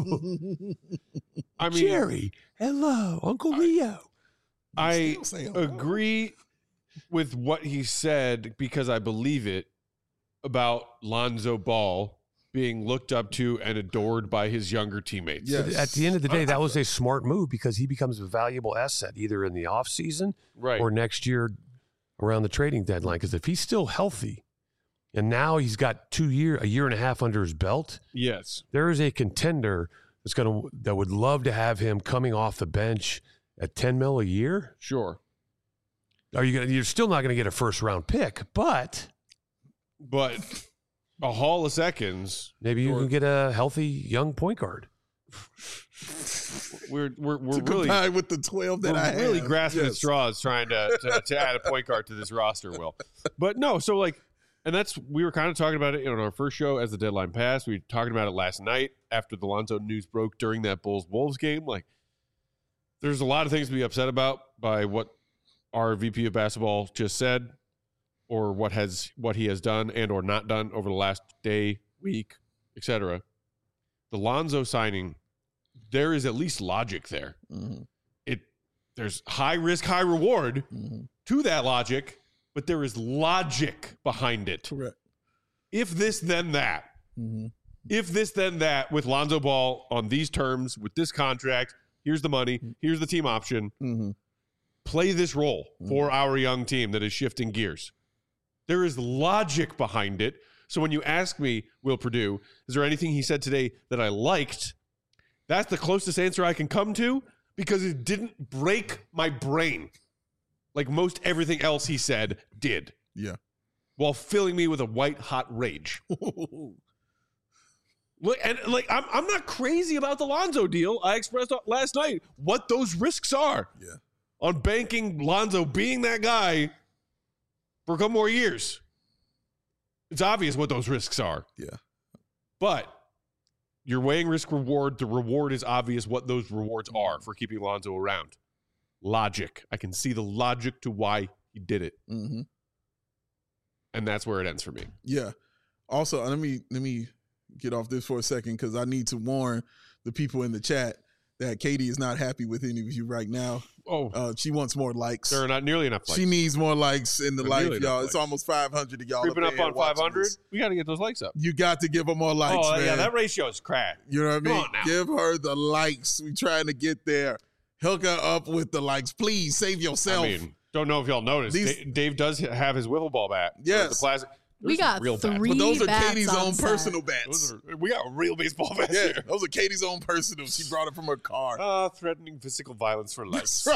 Speaker 1: I mean,
Speaker 3: Jerry. Hello, Uncle Leo.
Speaker 1: I
Speaker 2: Still saying hello.
Speaker 1: agree with what he said because I believe it about Lonzo Ball being looked up to and adored by his younger teammates.
Speaker 2: Yeah.
Speaker 3: But at the end of the day, that was a smart move because he becomes a valuable asset either in the offseason
Speaker 1: Right.
Speaker 3: or next year around the trading deadline. Because if he's still healthy and now he's got a year and a half under his belt,
Speaker 1: Yes.
Speaker 3: there is a contender that would love to have him coming off the bench at $10 million a year.
Speaker 1: Sure.
Speaker 3: You're still not going to get a first round pick, but
Speaker 1: But a haul of seconds.
Speaker 3: maybe you
Speaker 1: Or-
Speaker 3: can get a healthy young point guard.
Speaker 1: We're
Speaker 2: To
Speaker 1: really
Speaker 2: combine with the 12 that I
Speaker 1: we're really
Speaker 2: have.
Speaker 1: grasping at
Speaker 2: Yes.
Speaker 1: straws trying to add a point guard to this roster, Will. But no, so like, and we were kind of talking about it on our first show as the deadline passed. We were talking about it last night after the Lonzo news broke during that Bulls-Wolves game. Like, there's a lot of things to be upset about by what our VP of basketball just said, or what he has done and or not done over the last day, week, etc. The Lonzo signing, there is at least logic there.
Speaker 2: Mm-hmm.
Speaker 1: There's high risk, high reward
Speaker 2: Mm-hmm.
Speaker 1: to that logic, but there is logic behind it.
Speaker 2: Correct.
Speaker 1: If this, then that.
Speaker 2: Mm-hmm.
Speaker 1: If this, then that, with Lonzo Ball on these terms, with this contract, here's the money, here's the team option.
Speaker 2: Mm-hmm.
Speaker 1: Play this role for our young team that is shifting gears. There is logic behind it. So when you ask me, Will Purdue, is there anything he said today that I liked? That's the closest answer I can come to because it didn't break my brain. like most everything else he said did.
Speaker 2: Yeah.
Speaker 1: While filling me with a white hot rage. Look, and like I'm not crazy about the Lonzo deal. I expressed last night what those risks are.
Speaker 2: Yeah.
Speaker 1: On banking Lonzo being that guy for a couple more years. It's obvious what those risks are.
Speaker 2: Yeah.
Speaker 1: But you're weighing risk reward. The reward is obvious what those rewards are for keeping Lonzo around. Logic. I can see the logic to why he did it.
Speaker 2: Mm-hmm.
Speaker 1: And that's where it ends for me.
Speaker 2: Yeah. Also, let me get off this for a second because I need to warn the people in the chat that Katie is not happy with any of you right now.
Speaker 1: Oh,
Speaker 2: she wants more likes.
Speaker 1: there are not nearly enough likes.
Speaker 2: She needs more likes in the
Speaker 1: Not
Speaker 2: life,
Speaker 1: nearly enough
Speaker 2: y'all.
Speaker 1: likes.
Speaker 2: It's almost 500 of y'all.
Speaker 1: Creeping up
Speaker 2: there
Speaker 1: on
Speaker 2: watching
Speaker 1: 500.
Speaker 2: this.
Speaker 1: We got to get those likes up.
Speaker 2: You got to give her more likes, man.
Speaker 1: Yeah, that ratio is crap.
Speaker 2: You know what I
Speaker 1: Come
Speaker 2: mean?
Speaker 1: on now.
Speaker 2: Give her the likes. We trying to get there. Hook her up with the likes. Please save yourself.
Speaker 1: I mean, don't know if y'all noticed.
Speaker 2: These-
Speaker 1: Dave does have his wiffle ball bat.
Speaker 2: Yes.
Speaker 1: The plastic.
Speaker 4: We
Speaker 1: Those are
Speaker 4: got
Speaker 1: real bats.
Speaker 4: three
Speaker 2: But those are
Speaker 4: bats
Speaker 2: Katie's
Speaker 4: on
Speaker 2: own
Speaker 4: set.
Speaker 2: personal bats.
Speaker 1: We got real baseball bats
Speaker 2: Yeah,
Speaker 1: here.
Speaker 2: those are Katie's own personal. She brought it from her car.
Speaker 1: Threatening physical violence for likes.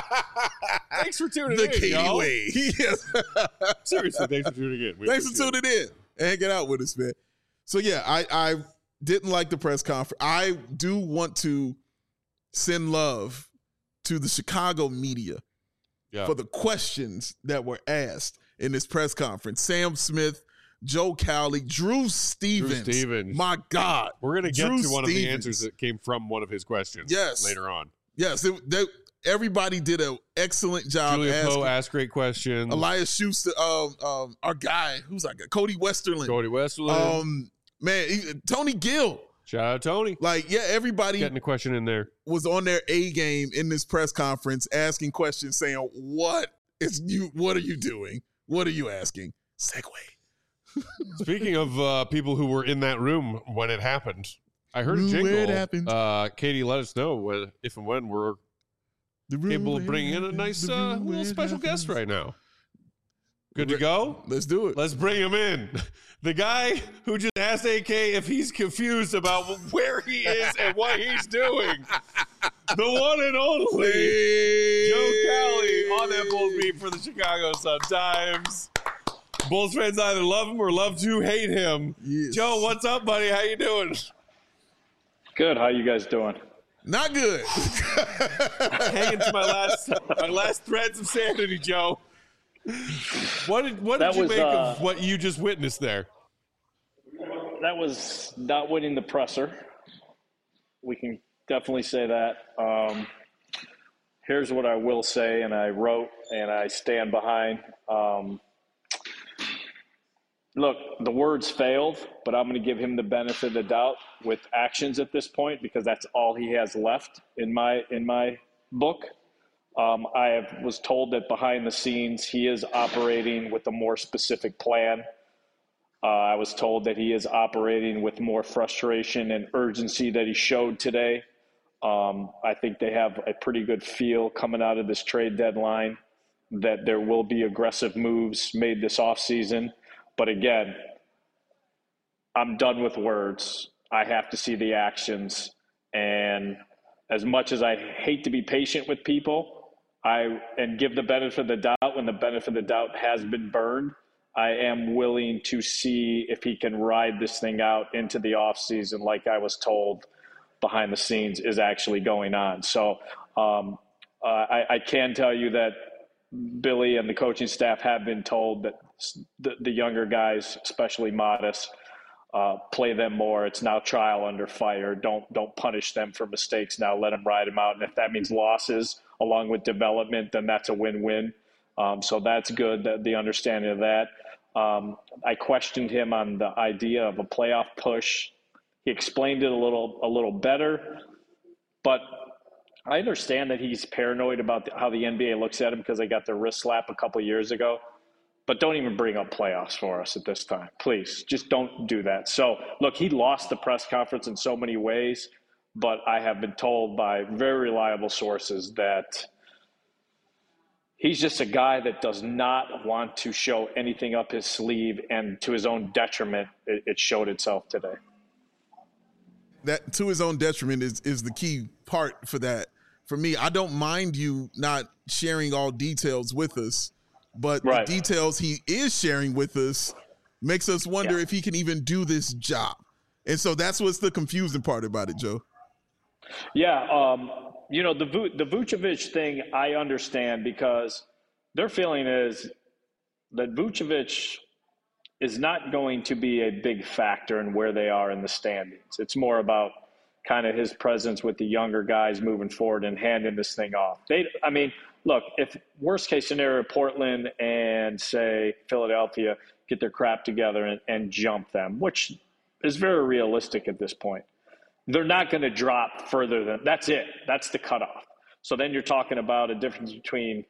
Speaker 1: Thanks for tuning
Speaker 2: The
Speaker 1: in,
Speaker 2: Katie
Speaker 1: y'all.
Speaker 2: way. Yes.
Speaker 1: Seriously, thanks for tuning in. We
Speaker 2: Thanks for
Speaker 1: appreciate
Speaker 2: tuning in and hanging out with us, man. So yeah, I didn't like the press conference. I do want to send love to the Chicago media
Speaker 1: Yeah.
Speaker 2: for the questions that were asked in this press conference. Sam Smith, Joe Cowley, Drew Stevens. My God.
Speaker 1: We're going to get
Speaker 2: Drew
Speaker 1: to one of the
Speaker 2: Stevens.
Speaker 1: answers that came from one of his questions
Speaker 2: Yes.
Speaker 1: later on.
Speaker 2: Yes, everybody did an excellent job.
Speaker 1: Julia
Speaker 2: asking.
Speaker 1: Poe asked great questions.
Speaker 2: Elias Schuster, our guy, who's like Cody Westerland.
Speaker 1: Cody Westerland.
Speaker 2: Tony Gill.
Speaker 1: Shout out Tony.
Speaker 2: Like, yeah, everybody
Speaker 1: Getting a question in there.
Speaker 2: was on their A game in this press conference, asking questions, saying, "What are you doing? What are you asking?" Segue.
Speaker 1: Speaking of people who were in that room when it happened, I heard a
Speaker 2: Room
Speaker 1: jingle.
Speaker 2: where it happened.
Speaker 1: Katie, let us know if and when we're able to bring in a nice little special guest right now. Good to go?
Speaker 2: Let's do it.
Speaker 1: Let's bring him in. The guy who just asked AK if he's confused about where he is and what he's doing. The one and only Joe Cowley on that Bulls beat for the Chicago Sun-Times. Bulls fans either love him or love to hate him.
Speaker 2: Yes.
Speaker 1: Joe, what's up, buddy? How you doing?
Speaker 7: Good. How you guys doing?
Speaker 2: Not good.
Speaker 1: Hanging to my last threads of sanity, Joe. What did you make of what you just witnessed there?
Speaker 7: That was not winning the presser. We can definitely say that. Here's what I will say, and I wrote and I stand behind. Look, the words failed, but I'm going to give him the benefit of the doubt with actions at this point because that's all he has left in my book. I was told that behind the scenes he is operating with a more specific plan. I was told that he is operating with more frustration and urgency that he showed today. I think they have a pretty good feel coming out of this trade deadline that there will be aggressive moves made this offseason. But again, I'm done with words. I have to see the actions. And as much as I hate to be patient with people and give the benefit of the doubt when the benefit of the doubt has been burned, I am willing to see if he can ride this thing out into the offseason like I was told behind the scenes is actually going on. So I can tell you that Billy and the coaching staff have been told that the younger guys, especially Modest, play them more. It's now trial under fire. Don't punish them for mistakes now. Let them ride them out. And if that means losses along with development, then that's a win-win. So that's good, the understanding of that. I questioned him on the idea of a playoff push. He explained it a little better, but I understand that he's paranoid about how the NBA looks at him because they got their wrist slap a couple of years ago. But don't even bring up playoffs for us at this time. Please, just don't do that. So, look, he lost the press conference in so many ways, but I have been told by very reliable sources that he's just a guy that does not want to show anything up his sleeve, and to his own detriment, it showed itself today.
Speaker 2: That to his own detriment is the key part for that. for me, I don't mind you not sharing all details with us, but the details he is sharing with us makes us wonder if he can even do this job. And so that's what's the confusing part about it, Joe.
Speaker 7: Yeah, the Vucevic thing I understand, because their feeling is that Vucevic is not going to be a big factor in where they are in the standings. It's more about kind of his presence with the younger guys moving forward and handing this thing off. Look, if worst case scenario, Portland and say Philadelphia get their crap together and jump them, which is very realistic at this point, they're not going to drop further than that's it. That's the cutoff. So then you're talking about a difference between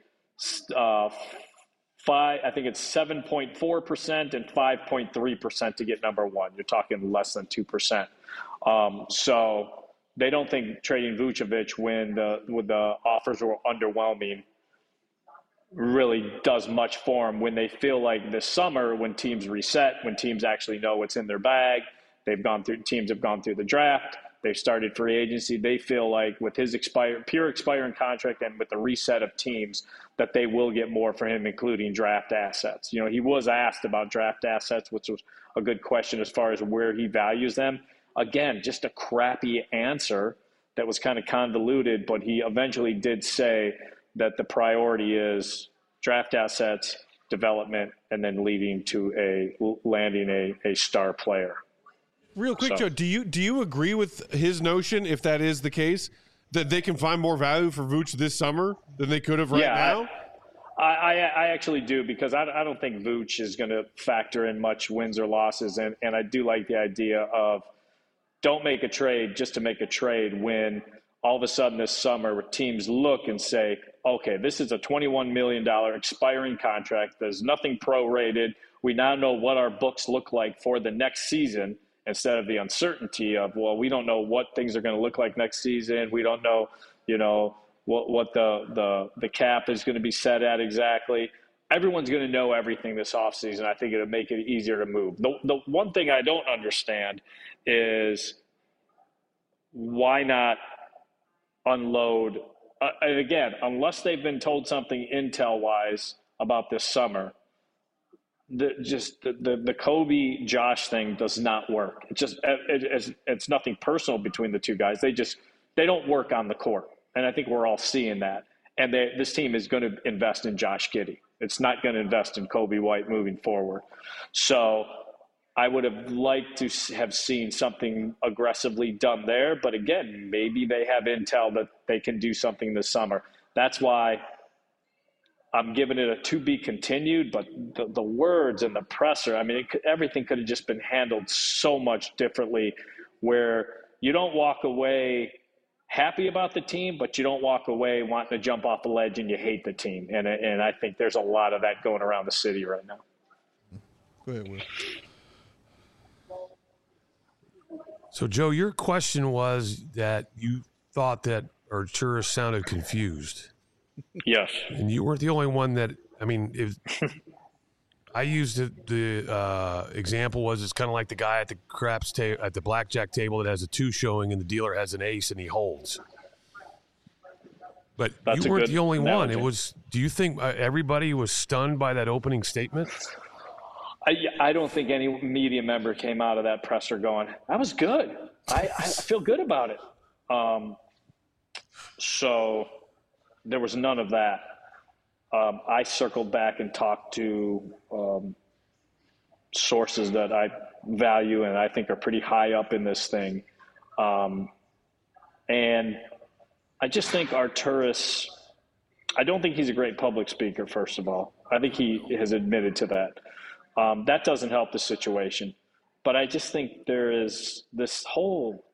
Speaker 7: 7.4% and 5.3% to get number one. You're talking less than 2%. So they don't think trading Vucevic when the offers were underwhelming really does much for them when they feel like this summer, when teams reset, when teams actually know what's in their bag, teams have gone through the draft, they've started free agency. They feel like with his pure expiring contract and with the reset of teams that they will get more for him, including draft assets. He was asked about draft assets, which was a good question as far as where he values them. Again, just a crappy answer that was kind of convoluted, but he eventually did say that the priority is draft assets, development, and then leading to landing a star player.
Speaker 1: Real quick, Joe, do you agree with his notion, if that is the case, that they can find more value for Vooch this summer than they could have now?
Speaker 7: I actually do, because I don't think Vooch is going to factor in much wins or losses, and I do like the idea of don't make a trade just to make a trade when all of a sudden this summer teams look and say, okay, this is a $21 million expiring contract. There's nothing prorated. We now know what our books look like for the next season, instead of the uncertainty of, well, we don't know what things are going to look like next season. We don't know, what the cap is going to be set at exactly. Everyone's going to know everything this offseason. I think it'll make it easier to move. The one thing I don't understand is why not unload and again, unless they've been told something intel-wise about this summer, the Kobe Josh thing does not work. It's nothing personal between the two guys. They don't work on the court, and I think we're all seeing that. And this team is going to invest in Josh Giddey. It's not going to invest in Kobe White moving forward. So I would have liked to have seen something aggressively done there. But again, maybe they have intel that they can do something this summer. That's why I'm giving it a to be continued. But the words and the presser, everything could have just been handled so much differently, where you don't walk away happy about the team, but you don't walk away wanting to jump off the ledge and you hate the team. And I think there's a lot of that going around the city right now.
Speaker 2: Go ahead, Will.
Speaker 3: So, Joe, your question was that you thought that Arturas sounded confused.
Speaker 7: Yes.
Speaker 3: And you weren't the only one that, I used the example was it's kind of like the guy at the craps at the blackjack table that has a 2 showing and the dealer has an ace and he holds. But you weren't the only one. It was. Do you think everybody was stunned by that opening statement?
Speaker 7: I don't think any media member came out of that presser going, "That was good. I feel good about it." So there was none of that. I circled back and talked to sources that I value and I think are pretty high up in this thing. And I just think Arturas, I don't think he's a great public speaker, first of all. I think he has admitted to that. That doesn't help the situation. But I just think there is this whole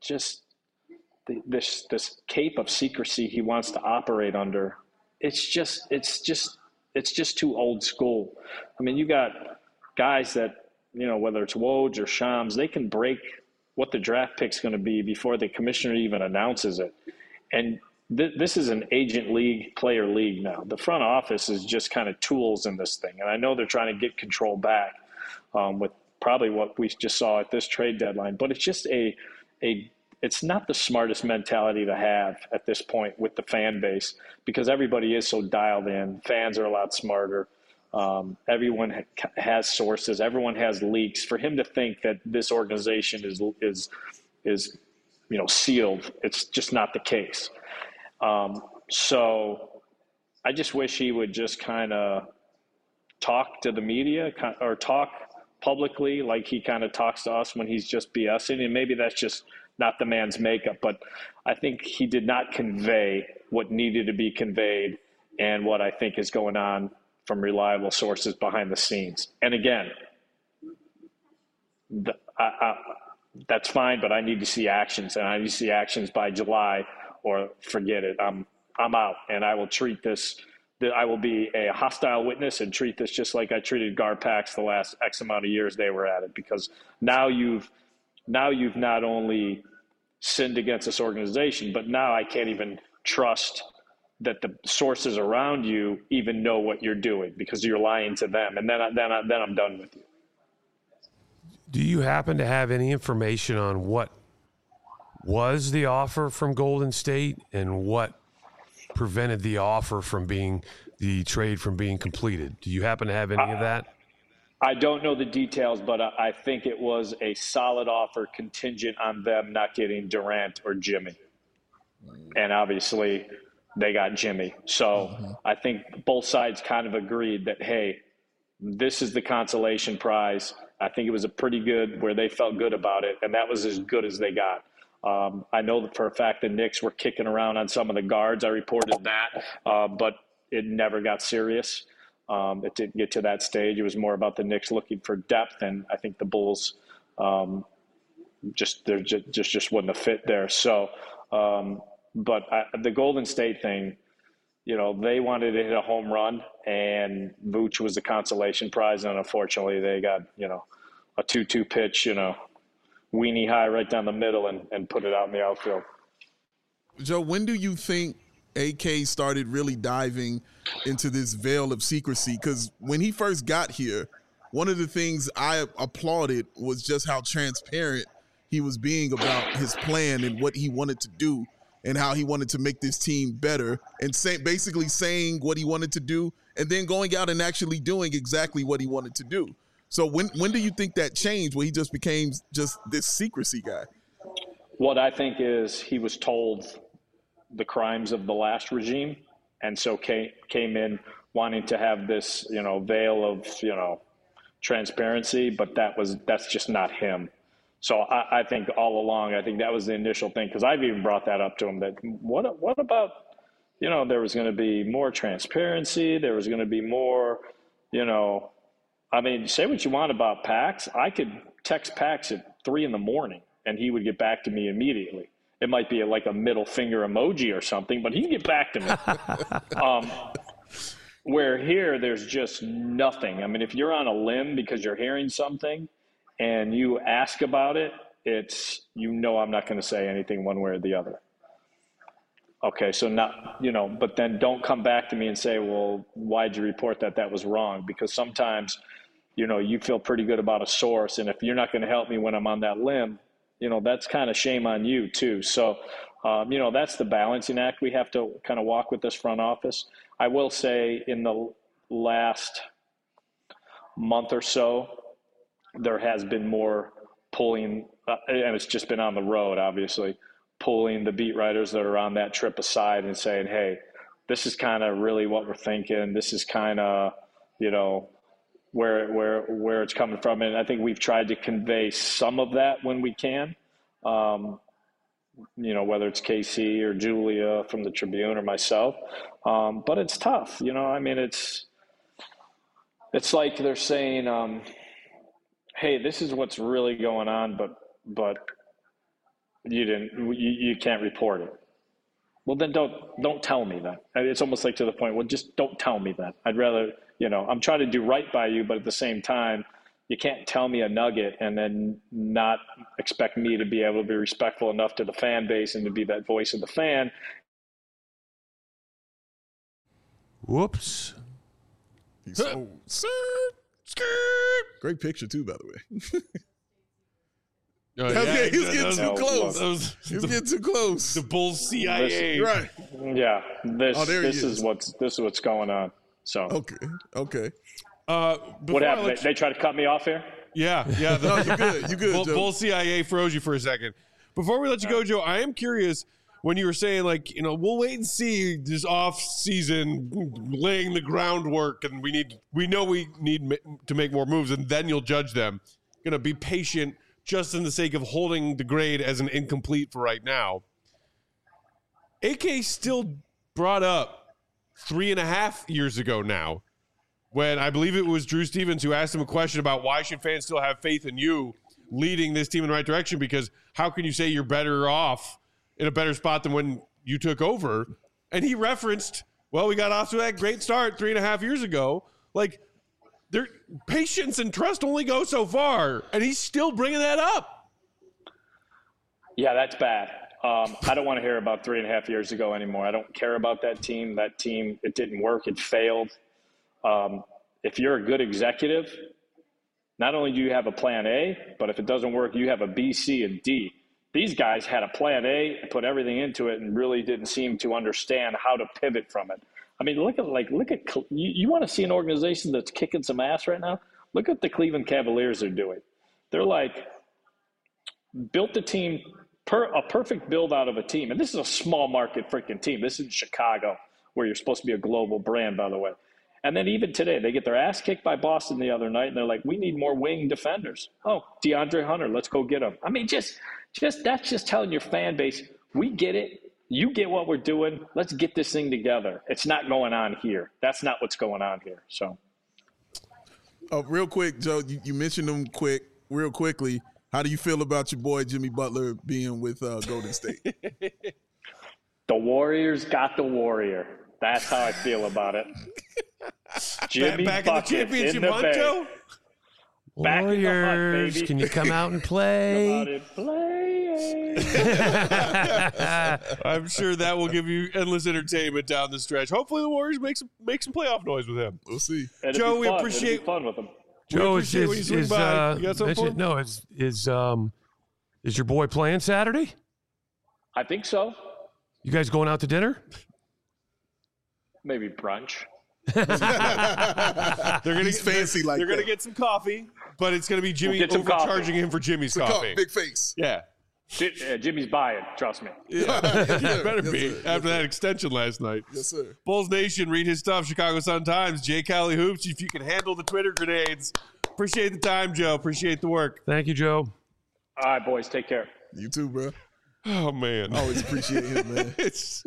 Speaker 7: this cape of secrecy he wants to operate under. It's just too old school. You got guys that, whether it's Woj or Shams, they can break what the draft pick's going to be before the commissioner even announces it. And this is an agent league, player league now. The front office is just kind of tools in this thing. And I know they're trying to get control back with probably what we just saw at this trade deadline. But it's just a it's not the smartest mentality to have at this point with the fan base, because everybody is so dialed in. Fans are a lot smarter. Everyone has sources. Everyone has leaks. For him to think that this organization is sealed, it's just not the case. So I just wish he would just kind of talk to the media or talk publicly like he kind of talks to us when he's just BSing. And maybe that's just not the man's makeup, but I think he did not convey what needed to be conveyed and what I think is going on from reliable sources behind the scenes. And again, that's fine, but I need to see actions, and I need to see actions by July, or forget it. I'm out, and I will treat this. I will be a hostile witness and treat this just like I treated Garpax the last X amount of years they were at it, because now you've not only sinned against this organization, but now I can't even trust that the sources around you even know what you're doing, because you're lying to them, and then I'm done with you.
Speaker 3: Do you happen to have any information on what was the offer from Golden State and what prevented the offer from the trade from being completed? Do you happen to have any of that?
Speaker 7: I don't know the details, but I think it was a solid offer contingent on them not getting Durant or Jimmy. And obviously they got Jimmy. So I think both sides kind of agreed that, hey, this is the consolation prize. I think it was a pretty good where they felt good about it, and that was as good as they got. I know that for a fact the Knicks were kicking around on some of the guards. I reported that, but it never got serious. It didn't get to that stage. It was more about the Knicks looking for depth, and I think the Bulls just wasn't a fit there. So, but the Golden State thing, they wanted to hit a home run, and Vooch was the consolation prize, and unfortunately they got a 2-2 pitch, weenie high right down the middle and put it out in the outfield.
Speaker 2: Joe, when do you think AK started really diving into this veil of secrecy? Because when he first got here, one of the things I applauded was just how transparent he was being about his plan and what he wanted to do and how he wanted to make this team better, and basically saying what he wanted to do and then going out and actually doing exactly what he wanted to do. So when do you think that changed, where he just became just this secrecy guy?
Speaker 7: What I think is he was told the crimes of the last regime, and so came in wanting to have this, veil of, transparency, but that's just not him. So I think all along, I think that was the initial thing, because I've even brought that up to him, that what about, there was going to be more transparency, there was going to be more, say what you want about Pax. I could text Pax at 3 a.m. and he would get back to me immediately. It might be like a middle finger emoji or something, but he can get back to me. Where here, there's just nothing. If you're on a limb because you're hearing something and you ask about it, it's, I'm not going to say anything one way or the other. Okay, so not, but then don't come back to me and say, well, why'd you report that? That was wrong. Because sometimes, you feel pretty good about a source, and if you're not going to help me when I'm on that limb, that's kind of shame on you too. So, that's the balancing act we have to kind of walk with this front office. I will say in the last month or so, there has been more pulling, and it's just been on the road, obviously, pulling the beat writers that are on that trip aside and saying, hey, this is kind of really what we're thinking. This is kind of, where it's coming from. And I think we've tried to convey some of that when we can, whether it's KC or Julia from the Tribune or myself. But it's tough, it's like they're saying, hey, this is what's really going on, but you can't report it. Well, then don't tell me that. It's almost like to the point, well, just don't tell me that. I'd rather, I'm trying to do right by you, but at the same time, you can't tell me a nugget and then not expect me to be able to be respectful enough to the fan base and to be that voice of the fan.
Speaker 3: Whoops.
Speaker 2: Great picture too, by the way. He's getting too close. He's getting too close.
Speaker 1: The Bulls CIA.
Speaker 2: Right.
Speaker 7: Yeah. This
Speaker 2: is.
Speaker 7: is what's going on. So
Speaker 2: Okay.
Speaker 7: What happened? They tried to cut me off here?
Speaker 1: Yeah.
Speaker 2: No, you good, Joe.
Speaker 1: Bull CIA froze you for a second. Before we let you go, Joe, I am curious when you were saying, like, we'll wait and see this off season, laying the groundwork, and we know we need to make more moves, and then you'll judge them. Going to be patient just in the sake of holding the grade as an incomplete for right now. AK still brought up 3.5 years ago now, when I believe it was Drew Stevens who asked him a question about why should fans still have faith in you leading this team in the right direction, because how can you say you're better off in a better spot than when you took over? And he referenced, well, we got off to that great start 3.5 years ago. Like, their patience and trust only go so far, and he's still bringing that up.
Speaker 7: Yeah, that's bad. I don't want to hear about 3.5 years ago anymore. I don't care about that team. That team, it didn't work. It failed. If you're a good executive, not only do you have a plan A, but if it doesn't work, you have a B, C, and D. These guys had a plan A and put everything into it and really didn't seem to understand how to pivot from it. I mean, look at you want to see an organization that's kicking some ass right now? Look at the Cleveland Cavaliers are doing. They're like built the team, a perfect build out of a team. And this is a small market freaking team. This is Chicago, where you're supposed to be a global brand, by the way. And then even today, they get their ass kicked by Boston the other night, and they're like, we need more wing defenders. Oh, DeAndre Hunter, let's go get him. I mean, just that's just telling your fan base, we get it. You get what we're doing. Let's get this thing together. It's not going on here. That's not what's going on here. So,
Speaker 2: real quick, Joe, you mentioned him real quickly. How do you feel about your boy Jimmy Butler being with Golden State?
Speaker 7: The Warriors got the Warrior. That's how I feel about it. Jimmy
Speaker 1: back in the championship hunt, Joe?
Speaker 7: Back
Speaker 3: Warriors,
Speaker 7: in the hunt, baby.
Speaker 3: can you come out and play?
Speaker 7: Come out and play.
Speaker 1: I'm sure that will give you endless entertainment down the stretch. Hopefully the Warriors make some playoff noise with him.
Speaker 2: We'll see.
Speaker 1: Joe, we
Speaker 7: It'll
Speaker 1: appreciate
Speaker 7: be fun with him.
Speaker 3: Joe,
Speaker 1: when you swing by. You got something for him?
Speaker 3: No, is your boy playing Saturday?
Speaker 7: I think so.
Speaker 3: You guys going out to dinner?
Speaker 7: Maybe brunch.
Speaker 1: They're gonna
Speaker 2: He's fancy like
Speaker 1: They're
Speaker 2: that.
Speaker 1: gonna get some coffee, but it's gonna be Jimmy
Speaker 7: We'll get some
Speaker 1: overcharging
Speaker 7: coffee.
Speaker 1: him for Jimmy's coffee.
Speaker 2: Big face.
Speaker 1: Yeah.
Speaker 7: Jimmy's buying. Trust me.
Speaker 1: Yeah, better be
Speaker 2: sir.
Speaker 1: after that extension last night.
Speaker 2: Yes, sir.
Speaker 1: Bulls Nation, read his stuff. Chicago Sun-Times. Jay Cali Hoops. If you can handle the Twitter grenades, appreciate the time, Joe. Appreciate the work.
Speaker 3: Thank you, Joe.
Speaker 7: All right, boys. Take care.
Speaker 2: You too, bro.
Speaker 1: Oh man,
Speaker 2: Always appreciate him, man.
Speaker 1: it's.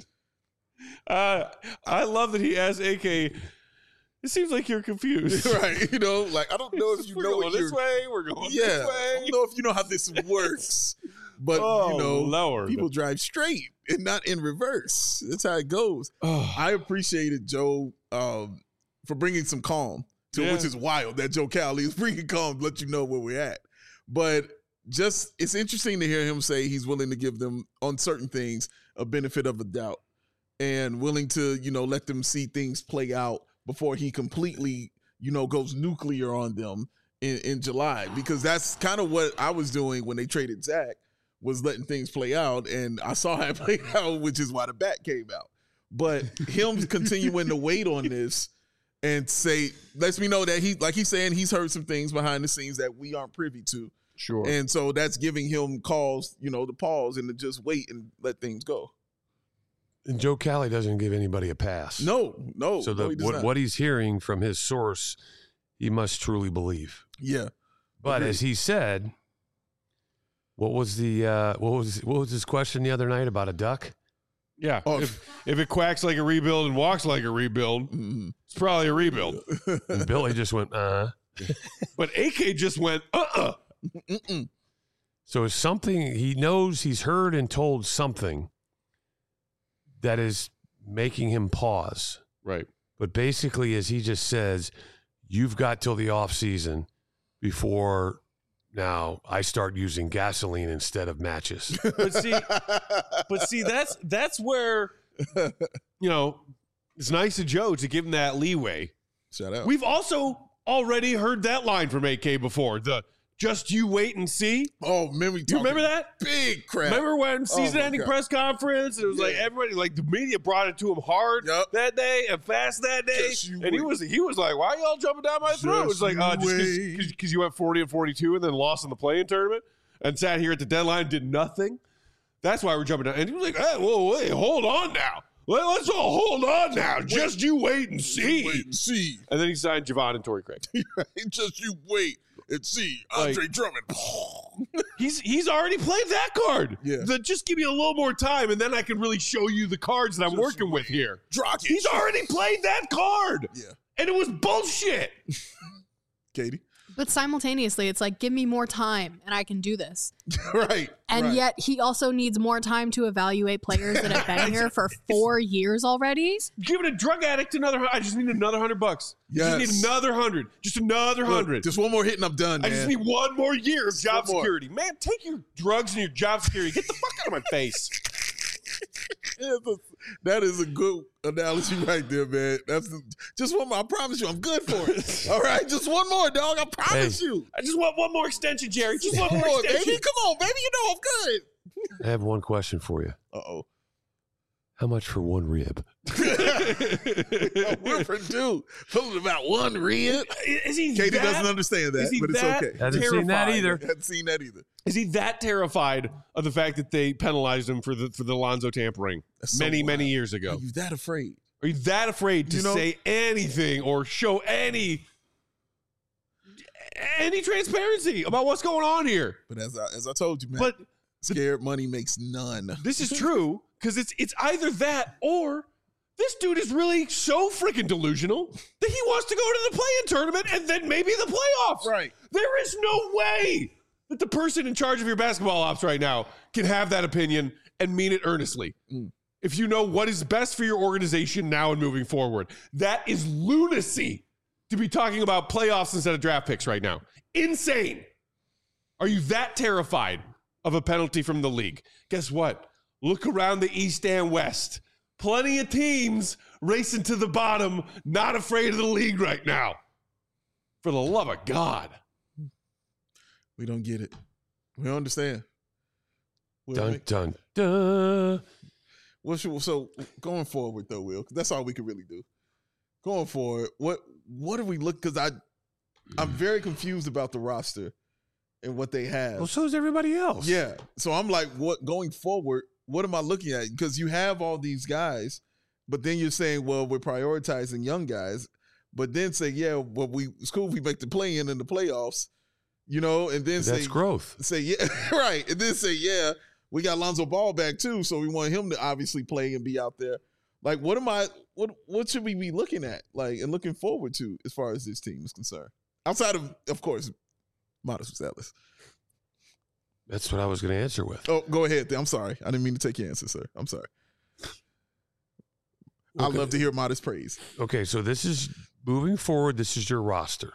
Speaker 1: I love that he asked AK. It seems like you're confused.
Speaker 2: Right. You know, like, I don't know if you
Speaker 1: We're
Speaker 2: know
Speaker 1: going
Speaker 2: what
Speaker 1: this way. We're going
Speaker 2: Yeah.
Speaker 1: this
Speaker 2: I
Speaker 1: way.
Speaker 2: don't know if you know how this works. But,
Speaker 1: Oh,
Speaker 2: you know,
Speaker 1: Lord.
Speaker 2: people drive straight and not in reverse. That's how it goes.
Speaker 1: Oh.
Speaker 2: I appreciated Joe for bringing some calm to
Speaker 1: Yeah.
Speaker 2: which is wild that Joe Cowley is bringing calm to let you know where we're at. But just it's interesting to hear him say he's willing to give them on certain things a benefit of the doubt and willing to, you know, let them see things play out before he completely, you know, goes nuclear on them in July, because that's kind of what I was doing when they traded Zach, was letting things play out, and I saw how it played out, which is why the bat came out. But him continuing to wait on this and say, lets me know that he's saying he's heard some things behind the scenes that we aren't privy to.
Speaker 1: Sure.
Speaker 2: And so that's giving him cause, you know, to pause and to just wait and let things go.
Speaker 3: And Joe Cali doesn't give anybody a pass.
Speaker 2: No.
Speaker 3: So
Speaker 2: no, he does not.
Speaker 3: what he's hearing from his source, he must truly believe.
Speaker 2: Yeah.
Speaker 3: But
Speaker 2: Agreed.
Speaker 3: as he said, what was his question the other night about a duck?
Speaker 1: Yeah.
Speaker 2: Oh.
Speaker 1: If it quacks like a rebuild and walks like a rebuild, it's probably a rebuild.
Speaker 3: And Billy just went,
Speaker 1: But AK just went,
Speaker 3: So it's something he knows, he's heard and told something that is making him pause.
Speaker 1: Right.
Speaker 3: But basically, as he just says, you've got till the off season before now I start using gasoline instead of matches.
Speaker 1: But see, that's where, you know, it's nice of Joe to give him that leeway.
Speaker 2: Shout out.
Speaker 1: We've also already heard that line from AK before. Just you wait and see.
Speaker 2: Oh,
Speaker 1: You remember that?
Speaker 2: Big crap.
Speaker 1: Remember when season-ending
Speaker 2: God.
Speaker 1: press conference? It was like everybody, like the media brought it to him hard that day and fast that day, and he was like, "Why y'all jumping down my throat?" It was like, just because you went 40-42 and then lost in the play-in tournament and sat here at the deadline, did nothing. That's why we're jumping down. And he was like, "Hey, whoa, wait, hold on now. Let's all hold on now. Just you wait and see."
Speaker 2: Wait and see.
Speaker 1: And then he signed Javon and Torrey Craig.
Speaker 2: Just you wait and see. Andre Drummond.
Speaker 1: He's already played that card.
Speaker 2: Yeah.
Speaker 1: Just give me a little more time, and then I can really show you the cards that I'm working with here.
Speaker 2: Drock it.
Speaker 1: He's already played that card.
Speaker 2: Yeah.
Speaker 1: And it was bullshit.
Speaker 2: Katie.
Speaker 4: But simultaneously, it's like, give me more time and I can do this.
Speaker 2: Right.
Speaker 4: And yet he also needs more time to evaluate players that have been here for 4 years already.
Speaker 1: Give it a drug addict another. I just need another $100.
Speaker 2: Yes.
Speaker 1: Just need another 100. Just another 100.
Speaker 2: Just one more hit and I'm done, man.
Speaker 1: I just need one more year of job
Speaker 2: one more.
Speaker 1: security. Man, take your drugs and your job security. Get the fuck out of my face.
Speaker 2: That is a good analogy right there, man. Just one more. I promise you, I'm good for it. All right, just one more, dog. I promise you.
Speaker 1: I just want one more extension, Jerry. Just one more
Speaker 2: Come on,
Speaker 1: extension.
Speaker 2: baby. Come on, baby. You know I'm good.
Speaker 3: I have one question for you.
Speaker 2: Uh-oh.
Speaker 3: How much for one rib?
Speaker 2: We're for two. Pulling about one rib.
Speaker 1: Is he
Speaker 2: Katie
Speaker 1: that,
Speaker 2: doesn't understand that, but it's
Speaker 1: that
Speaker 2: okay.
Speaker 3: Hasn't seen that
Speaker 1: terrified?
Speaker 3: either.
Speaker 2: Hadn't seen that either.
Speaker 1: Is he that terrified of the fact that they penalized him for the Lonzo tampering
Speaker 2: That's so
Speaker 1: many
Speaker 2: wild.
Speaker 1: years ago?
Speaker 2: Are you that afraid?
Speaker 1: Are you that afraid to
Speaker 2: You know-
Speaker 1: say anything or show any transparency about what's going on here?
Speaker 2: But as I told you, man,
Speaker 1: But
Speaker 2: scared money makes none.
Speaker 1: this is true because it's either that or this dude is really so freaking delusional that he wants to go to the play-in tournament and then maybe the playoffs.
Speaker 2: Right.
Speaker 1: There is no way that the person in charge of your basketball ops right now can have that opinion and mean it earnestly. If you know what is best for your organization now and moving forward, that is lunacy to be talking about playoffs instead of draft picks right now. Insane. Are you that terrified of a penalty from the league? Guess what? Look around the East and West. Plenty of teams racing to the bottom, not afraid of the league right now. For the love of God.
Speaker 2: We don't get it. We don't understand.
Speaker 3: Dun, dun, dun.
Speaker 2: So going forward, though, Will, 'cause that's all we can really do. Going forward, what are we looking? Because I'm very confused about the roster and what they have.
Speaker 3: Well, so is everybody else.
Speaker 2: Yeah. So I'm like, what going forward? What am I looking at? Because you have all these guys, but then you're saying, well, we're prioritizing young guys, but then say, yeah, well, it's cool if we make the play-in and the playoffs, and then
Speaker 3: That's
Speaker 2: say
Speaker 3: growth.
Speaker 2: Say yeah, right, and then say yeah, we got Lonzo Ball back too, so we want him to obviously play and be out there. Like, what should we be looking at, like, and looking forward to as far as this team is concerned, outside of course, Modest Ellis.
Speaker 3: That's what I was going to answer with.
Speaker 2: Oh, go ahead. I'm sorry. I didn't mean to take your answer, sir. I'm sorry. I'd
Speaker 3: Okay.
Speaker 2: love to hear Modest praise.
Speaker 3: Okay, so this is moving forward. This is your roster.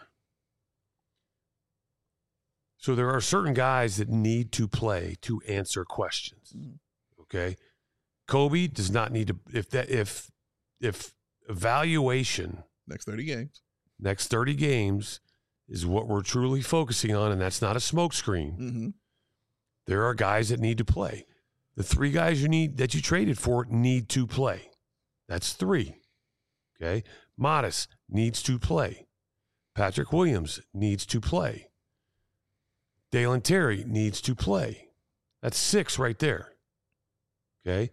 Speaker 3: So there are certain guys that need to play to answer questions. Okay, Kobe does not need to. If evaluation
Speaker 2: Next 30 games is what we're truly focusing on, and that's not a smokescreen.
Speaker 3: Mm-hmm. There are guys that need to play. The three guys that you traded for need to play. That's three. Okay. Modest needs to play. Patrick Williams needs to play. Dalen Terry needs to play. That's six right there. Okay.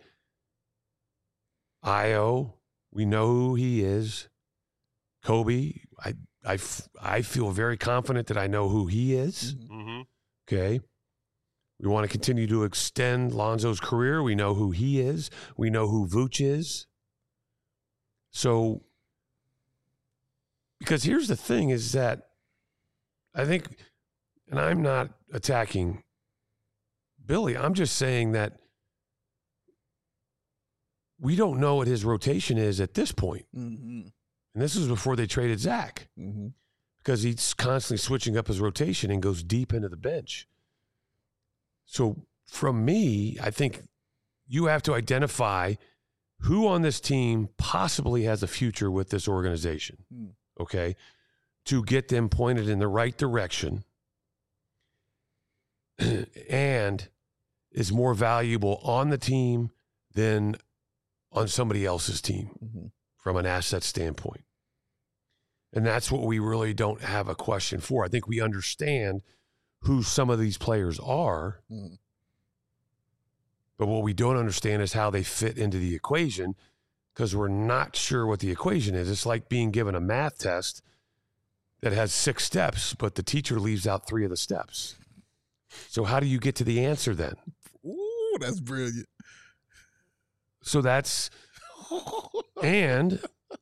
Speaker 3: Io, we know who he is. Kobe, I feel very confident that I know who he is.
Speaker 1: Mm-hmm.
Speaker 3: Okay. We want to continue to extend Lonzo's career. We know who he is. We know who Vooch is. So, because here's the thing is that I think, and I'm not attacking Billy, I'm just saying that we don't know what his rotation is at this point.
Speaker 2: Mm-hmm.
Speaker 3: And this was before they traded Zach,
Speaker 2: Mm-hmm.
Speaker 3: because he's constantly switching up his rotation and goes deep into the bench. So from me, I think you have to identify who on this team possibly has a future with this organization, okay, to get them pointed in the right direction and is more valuable on the team than on somebody else's team from an asset standpoint. And that's what we really don't have a question for. I think we understand who some of these players are, but what we don't understand is how they fit into the equation, because we're not sure what the equation is. It's like being given a math test that has 6 steps, but the teacher leaves out 3 of the steps. So how do you get to the answer then?
Speaker 2: Ooh, that's brilliant.
Speaker 3: So that's, and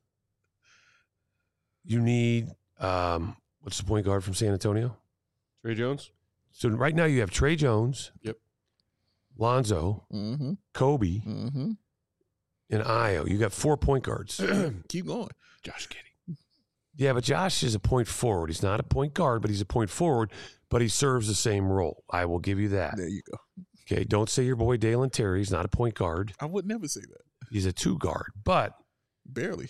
Speaker 3: you need, what's the point guard from San Antonio?
Speaker 1: Trey Jones.
Speaker 3: So right now you have Trey Jones.
Speaker 1: Yep.
Speaker 3: Lonzo, Kobe, and Ayo. You got 4 point guards.
Speaker 2: Keep going.
Speaker 1: Josh Giddey.
Speaker 3: Yeah, but Josh is a point forward. He's not a point guard, but he's a point forward, but he serves the same role. I will give you that.
Speaker 2: There you go.
Speaker 3: Okay, don't say your boy Dalen Terry. He's not a point guard.
Speaker 2: I would never say that.
Speaker 3: He's a 2 guard, but.
Speaker 2: Barely.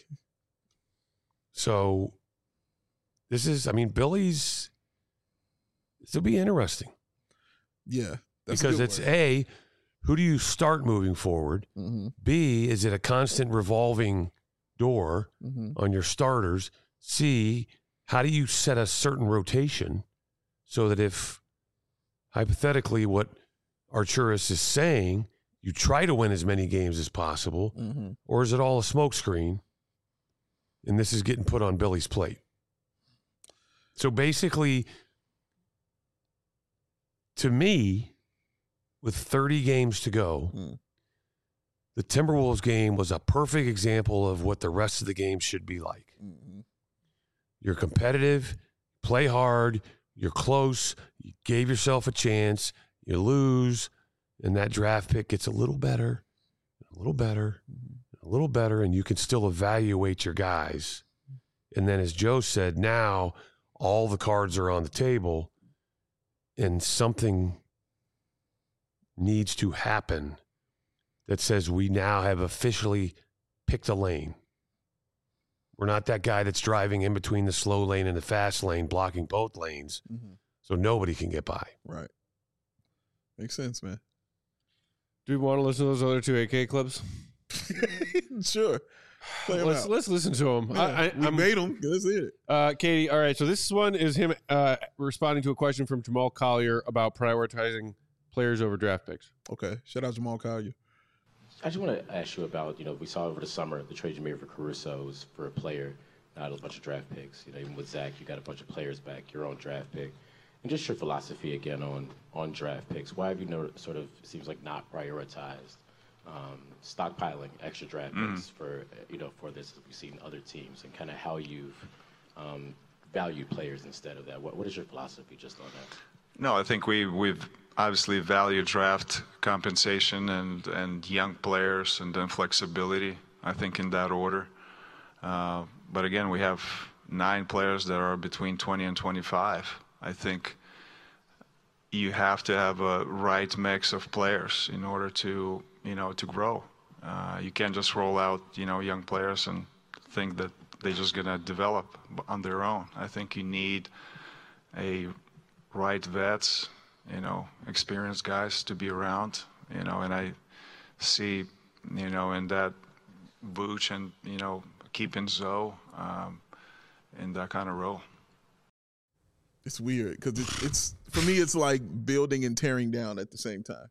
Speaker 3: So this is, I mean, this will be interesting.
Speaker 2: Yeah.
Speaker 3: Because it's A, who do you start moving forward? B, is it a constant revolving door on your starters? C, how do you set a certain rotation so that if hypothetically what Arturas is saying, you try to win as many games as possible, or is it all a smokescreen and this is getting put on Billy's plate? So basically, to me, with 30 games to go, the Timberwolves game was a perfect example of what the rest of the game should be like. You're competitive, play hard, you're close, you gave yourself a chance, you lose, and that draft pick gets a little better, a little better, a little better, and you can still evaluate your guys. And then as Joe said, now all the cards are on the table, and something needs to happen that says we now have officially picked a lane. We're not that guy that's driving in between the slow lane and the fast lane, blocking both lanes, so nobody can get by.
Speaker 2: Right. Makes sense, man.
Speaker 1: Do we want to listen to those other 2 AK clips?
Speaker 2: Sure.
Speaker 1: Let's listen to them.
Speaker 2: Yeah, we made them. Let's hear it.
Speaker 1: Katie, all right, so this one is him responding to a question from Jamal Collier about prioritizing players over draft picks.
Speaker 2: Okay. Shout out Jamal Collier.
Speaker 8: I just want to ask you about, we saw over the summer the trade you made for Caruso's for a player, not a bunch of draft picks. Even with Zach, you got a bunch of players back, your own draft pick. And just your philosophy again on draft picks. Why have you sort of, it seems like, not prioritized stockpiling extra draft picks for this, as we've seen other teams, and kind of how you've valued players instead of that? What is your philosophy just on that?
Speaker 6: No, I think we've obviously valued draft compensation and young players and then flexibility, I think, in that order. But again, we have 9 players that are between 20 and 25. I think you have to have a right mix of players in order to grow. You can't just roll out, young players and think that they're just going to develop on their own. I think you need a right vets, experienced guys to be around, and I see, in that Vooch and, keeping Zoe in that kind of role.
Speaker 2: It's weird because it's for me, it's like building and tearing down at the same time.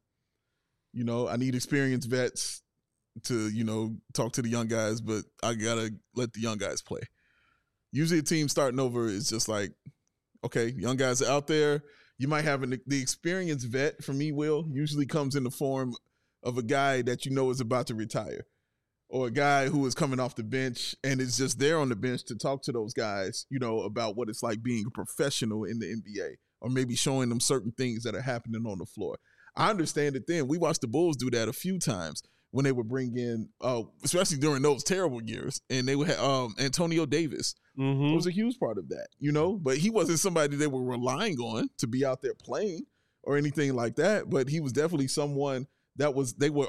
Speaker 2: I need experienced vets to, talk to the young guys, but I got to let the young guys play. Usually a team starting over is just like, okay, young guys are out there. You might have the experienced vet, for me, Will, usually comes in the form of a guy that is about to retire, or a guy who is coming off the bench and is just there on the bench to talk to those guys, about what it's like being a professional in the NBA, or maybe showing them certain things that are happening on the floor. I understand it then. We watched the Bulls do that a few times when they would bring in, especially during those terrible years, and they would have Antonio Davis. It was a huge part of that, but he wasn't somebody they were relying on to be out there playing or anything like that. But he was definitely someone they were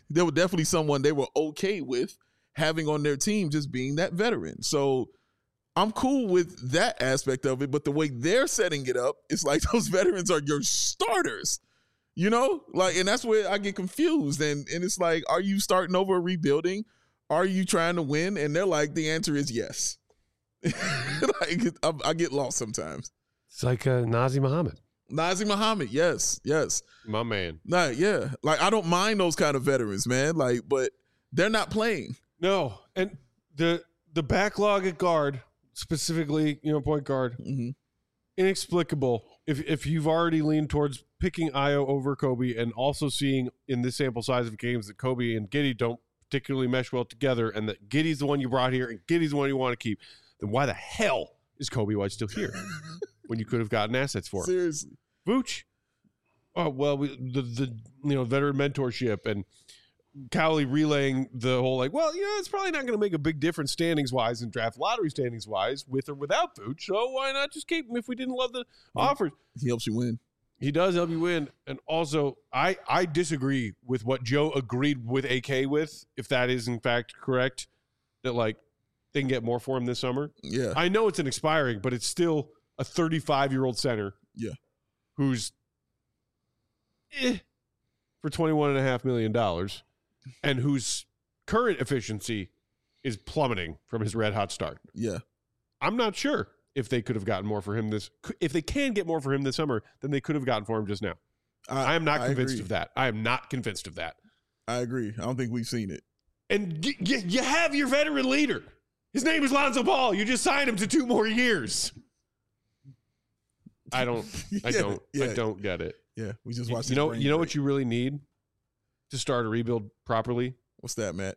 Speaker 2: definitely someone they were okay with having on their team, just being that veteran. So I'm cool with that aspect of it, but the way they're setting it up, it's like those veterans are your starters, you know? Like, and that's where I get confused. And it's like, are you starting over, rebuilding? Are you trying to win? And they're like, the answer is yes. Like, I get lost sometimes.
Speaker 3: It's like Nazir Muhammad.
Speaker 2: Nazir Muhammad, yes.
Speaker 1: My man.
Speaker 2: Nah, yeah. Like, I don't mind those kind of veterans, man. Like, but they're not playing.
Speaker 1: No, and the backlog at guard, specifically, point guard, inexplicable. If you've already leaned towards picking Ayo over Kobe, and also seeing in this sample size of games that Kobe and Giddey don't particularly mesh well together, and that Giddey's the one you brought here and Giddey's the one you want to keep, then why the hell is Kobe White still here when you could have gotten assets for him?
Speaker 2: Seriously,
Speaker 1: Vooch. Oh well, the veteran mentorship and Cowley relaying the whole it's probably not going to make a big difference standings wise and draft lottery standings wise with or without Vooch. So why not just keep him if we didn't love the offers?
Speaker 2: He helps you win.
Speaker 1: He does help you win. And also, I disagree with what Joe agreed with AK with, if that is in fact correct, that they can get more for him this summer.
Speaker 2: Yeah.
Speaker 1: I know it's an expiring, but it's still a 35-year-old center.
Speaker 2: Yeah.
Speaker 1: Who's for $21.5 million. And whose current efficiency is plummeting from his red hot start.
Speaker 2: Yeah.
Speaker 1: I'm not sure if they could have gotten more for him if they can get more for him this summer than they could have gotten for him just now. I am not convinced of that. I am not convinced of that.
Speaker 2: I agree. I don't think we've seen it.
Speaker 1: And you have your veteran leader. His name is Lonzo Ball. You just signed him to 2 more years. I don't get it.
Speaker 2: Yeah. We just watched
Speaker 1: you know what you really need to start a rebuild properly?
Speaker 2: What's that, Matt?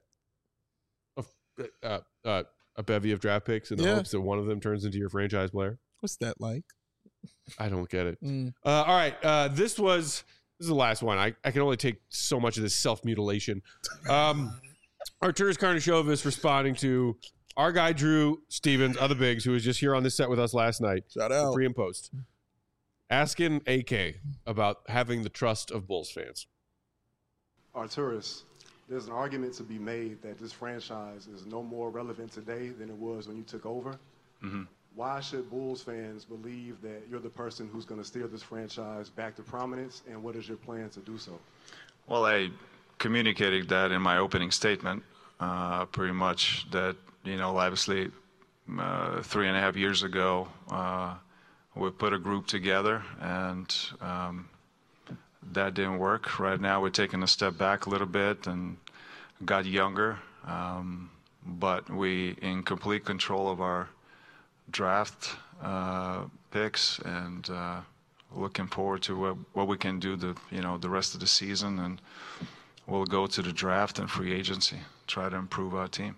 Speaker 1: A bevy of draft picks in the hopes that one of them turns into your franchise player.
Speaker 2: What's that like?
Speaker 1: I don't get it. All right. This is the last one. I can only take so much of this self-mutilation. Arturas Karnisovas responding to our guy Drew Stevens, other bigs, who was just here on this set with us last night.
Speaker 2: Shout out.
Speaker 1: Pre and post. Asking AK about having the trust of Bulls fans.
Speaker 9: Arturas, there's an argument to be made that this franchise is no more relevant today than it was when you took over.
Speaker 6: Mm-hmm.
Speaker 9: Why should Bulls fans believe that you're the person who's going to steer this franchise back to prominence, and what is your plan to do so?
Speaker 6: Well, I communicated that in my opening statement, pretty much that, obviously 3.5 years ago, we put a group together and that didn't work. Right now we're taking a step back a little bit and got younger, but we in complete control of our draft picks and looking forward to what we can do the rest of the season, and we'll go to the draft and free agency, try to improve our team.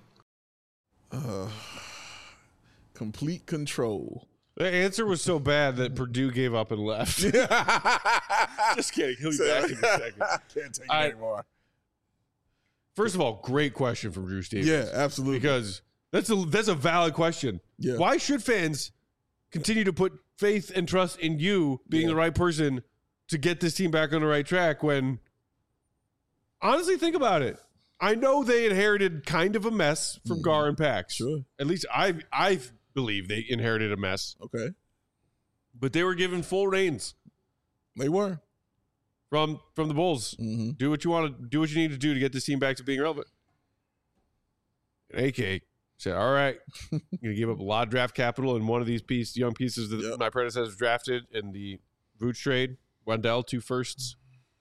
Speaker 2: Complete control.
Speaker 1: The answer was so bad that Purdue gave up and left. Just kidding. He'll be back in a second.
Speaker 2: I can't take it anymore.
Speaker 1: First of all, great question from Drew Stevens.
Speaker 2: Yeah, absolutely.
Speaker 1: Because that's a valid question.
Speaker 2: Yeah.
Speaker 1: Why should fans continue to put faith and trust in you being the right person to get this team back on the right track when, honestly, think about it. I know they inherited kind of a mess from Gar and Pax.
Speaker 2: Sure.
Speaker 1: At least I believe they inherited a mess.
Speaker 2: Okay.
Speaker 1: But they were given full reins.
Speaker 2: They were.
Speaker 1: From the Bulls.
Speaker 2: Mm-hmm.
Speaker 1: Do what you want to do, what you need to do to get this team back to being relevant. And AK said, all right, I'm going to give up a lot of draft capital in one of these young pieces that my predecessors drafted in the Vooch trade. Wendell, 2 firsts.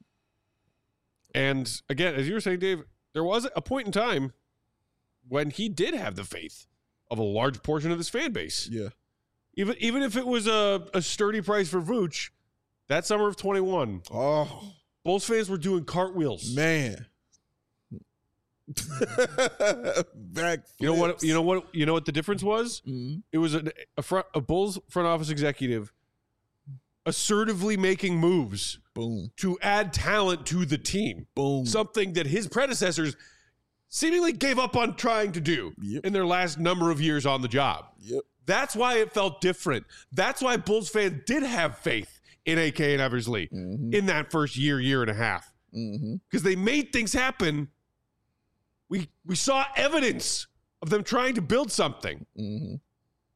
Speaker 1: And again, as you were saying, Dave, there was a point in time when he did have the faith of a large portion of this fan base.
Speaker 2: Yeah.
Speaker 1: Even if it was a sturdy price for Vooch, that summer of 21, Bulls fans were doing cartwheels.
Speaker 2: Man. Back flips.
Speaker 1: You know what the difference was?
Speaker 2: Mm-hmm.
Speaker 1: It was a Bulls front office executive assertively making moves to add talent to the team. Something that his predecessors seemingly gave up on trying to do in their last number of years on the job. That's why it felt different. That's why Bulls fans did have faith in AK and Eversley in that first year and a half. Because they made things happen. We saw evidence of them trying to build something.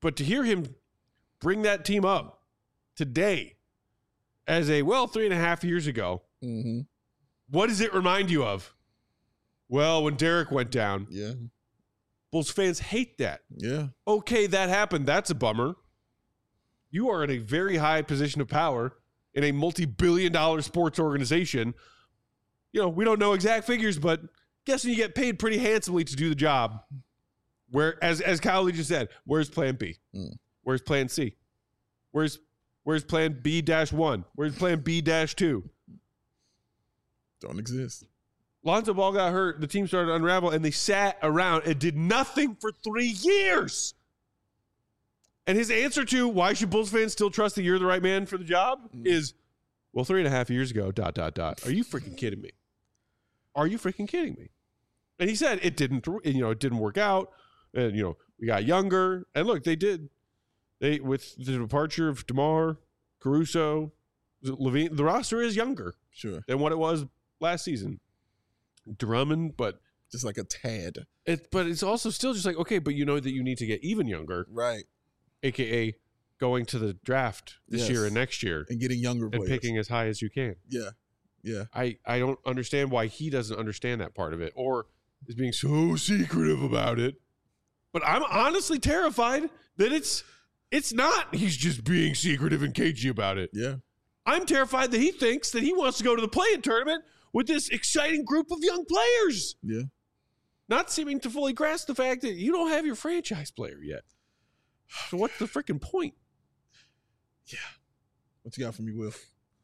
Speaker 1: But to hear him bring that team up today as 3.5 years ago, what does it remind you of? Well, when Derek went down.
Speaker 2: Yeah.
Speaker 1: Bulls fans hate that.
Speaker 2: Yeah.
Speaker 1: Okay, that happened. That's a bummer. You are in a very high position of power in a multi-billion-dollar sports organization. You know, we don't know exact figures, but guessing you get paid pretty handsomely to do the job. Where, as Kyle Lee just said, where's plan B? Where's plan C? Where's plan B-1? Where's plan B-2?
Speaker 2: Don't exist.
Speaker 1: Lonzo Ball got hurt. The team started to unravel, and they sat around and did nothing for 3 years. And his answer to why should Bulls fans still trust that you're the right man for the job is, 3.5 years ago, ... Are you freaking kidding me? Are you freaking kidding me? And he said it didn't work out. And, we got younger. And look, they did. With the departure of DeMar, Caruso, Levine, the roster is younger than what it was last season. Drummond, but
Speaker 2: just like a tad.
Speaker 1: But it's also still just like, okay, but you know that you need to get even younger.
Speaker 2: Right.
Speaker 1: AKA going to the draft this year and next year.
Speaker 2: And getting younger players.
Speaker 1: And picking as high as you can.
Speaker 2: Yeah. Yeah.
Speaker 1: I don't understand why he doesn't understand that part of it or is being so secretive about it. But I'm honestly terrified that it's not he's just being secretive and cagey about it.
Speaker 2: Yeah.
Speaker 1: I'm terrified that he thinks that he wants to go to the play-in tournament with this exciting group of young players.
Speaker 2: Yeah.
Speaker 1: Not seeming to fully grasp the fact that you don't have your franchise player yet. So what's the freaking point?
Speaker 2: Yeah. What you got for me, Will?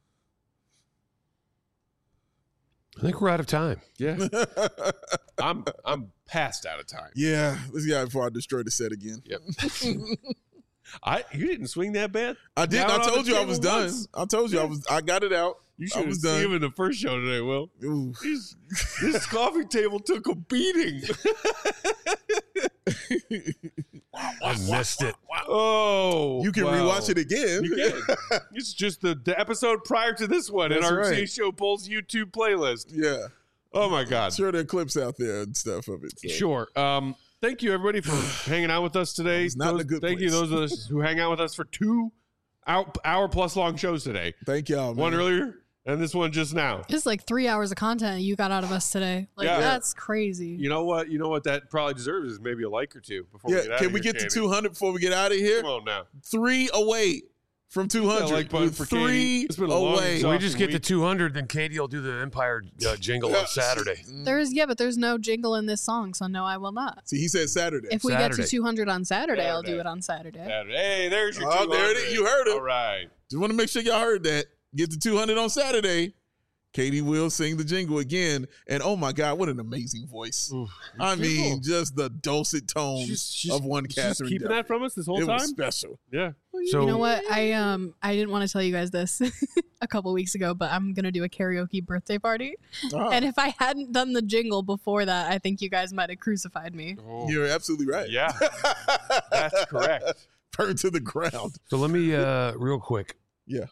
Speaker 3: I think we're out of time.
Speaker 1: Yeah. I'm past out of time.
Speaker 2: Yeah. Let's get out before I destroy the set again.
Speaker 1: Yep. You didn't swing that bad?
Speaker 2: I did. I told you I was done. I told you I got it out.
Speaker 1: You should have seen him in the first show today, Will. This coffee table took a beating.
Speaker 3: I missed it.
Speaker 1: Oh.
Speaker 2: You can rewatch it again.
Speaker 1: You can. It's just the episode prior to this one in our CH Show Bulls YouTube playlist.
Speaker 2: Yeah.
Speaker 1: Oh, my God.
Speaker 2: Sure, there are clips out there and stuff of it. So.
Speaker 1: Sure. Thank you, everybody, for hanging out with us today. Thank you, those of us who hang out with us for 2 hour-plus long shows today.
Speaker 2: Thank y'all, man.
Speaker 1: One earlier and this one just now.
Speaker 4: It's like 3 hours of content you got out of us today. That's crazy.
Speaker 1: You know what? That probably deserves is maybe a like or two before we get out of here.
Speaker 2: Can we get to 200 before we get out of here?
Speaker 1: Come on now.
Speaker 2: 3 away from 200.
Speaker 1: Yeah, like button for
Speaker 2: 3
Speaker 1: it's been a
Speaker 2: away.
Speaker 3: When we just get to 200, then Katie will do the Empire jingle on Saturday.
Speaker 4: But there's no jingle in this song, so no, I will not.
Speaker 2: See, he said Saturday.
Speaker 4: If we get to 200 on Saturday, I'll do it on Saturday.
Speaker 1: Hey, there's your 200.
Speaker 2: There it is. You heard it.
Speaker 1: All right.
Speaker 2: Just want to make sure y'all heard that. Get to 200 on Saturday. Katie will sing the jingle again. And oh my God, what an amazing voice. Ooh, I mean, just the dulcet tones of one Catherine.
Speaker 1: Keeping that from us this whole time?
Speaker 2: It was special.
Speaker 1: Yeah.
Speaker 4: So, you know what? I didn't want to tell you guys this a couple weeks ago, but I'm going to do a karaoke birthday party. Oh. And if I hadn't done the jingle before that, I think you guys might have crucified me.
Speaker 2: Oh. You're absolutely right.
Speaker 1: Yeah. That's correct.
Speaker 2: Burned to the ground.
Speaker 3: So let me, real quick.
Speaker 2: Yeah.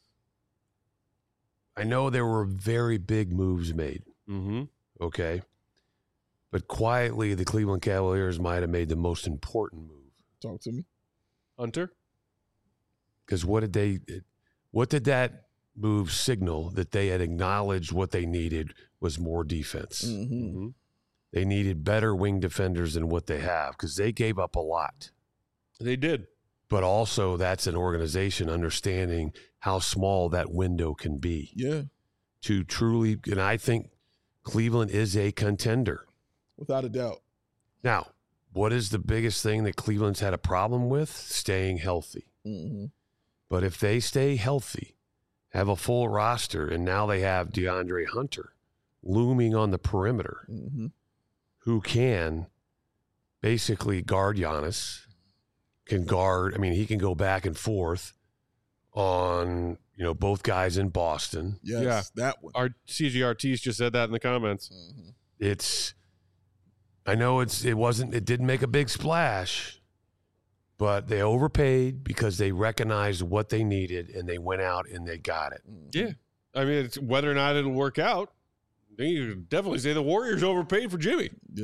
Speaker 3: I know there were very big moves made.
Speaker 1: Mm-hmm.
Speaker 3: Okay. But quietly, the Cleveland Cavaliers might have made the most important move.
Speaker 2: Talk to me.
Speaker 1: Hunter?
Speaker 3: Because what did that move signal? That they had acknowledged what they needed was more defense.
Speaker 2: Mm-hmm. Mm-hmm.
Speaker 3: They needed better wing defenders than what they have because they gave up a lot.
Speaker 1: They did.
Speaker 3: But also that's an organization understanding how small that window can be.
Speaker 2: Yeah.
Speaker 3: To truly, and I think Cleveland is a contender.
Speaker 2: Without a doubt.
Speaker 3: Now, what is the biggest thing that Cleveland's had a problem with? Staying healthy.
Speaker 2: Mm-hmm.
Speaker 3: But if they stay healthy, have a full roster, and now they have DeAndre Hunter looming on the perimeter,
Speaker 2: mm-hmm.
Speaker 3: who can basically guard Giannis, can guard, he can go back and forth on, both guys in Boston.
Speaker 2: Yes, yeah, that one.
Speaker 1: Our CGRTs just said that in the comments.
Speaker 3: Mm-hmm. I know it didn't make a big splash, but they overpaid because they recognized what they needed and they went out and they got it.
Speaker 1: Yeah. It's whether or not it'll work out. You can definitely say the Warriors overpaid for Jimmy.
Speaker 2: Yeah.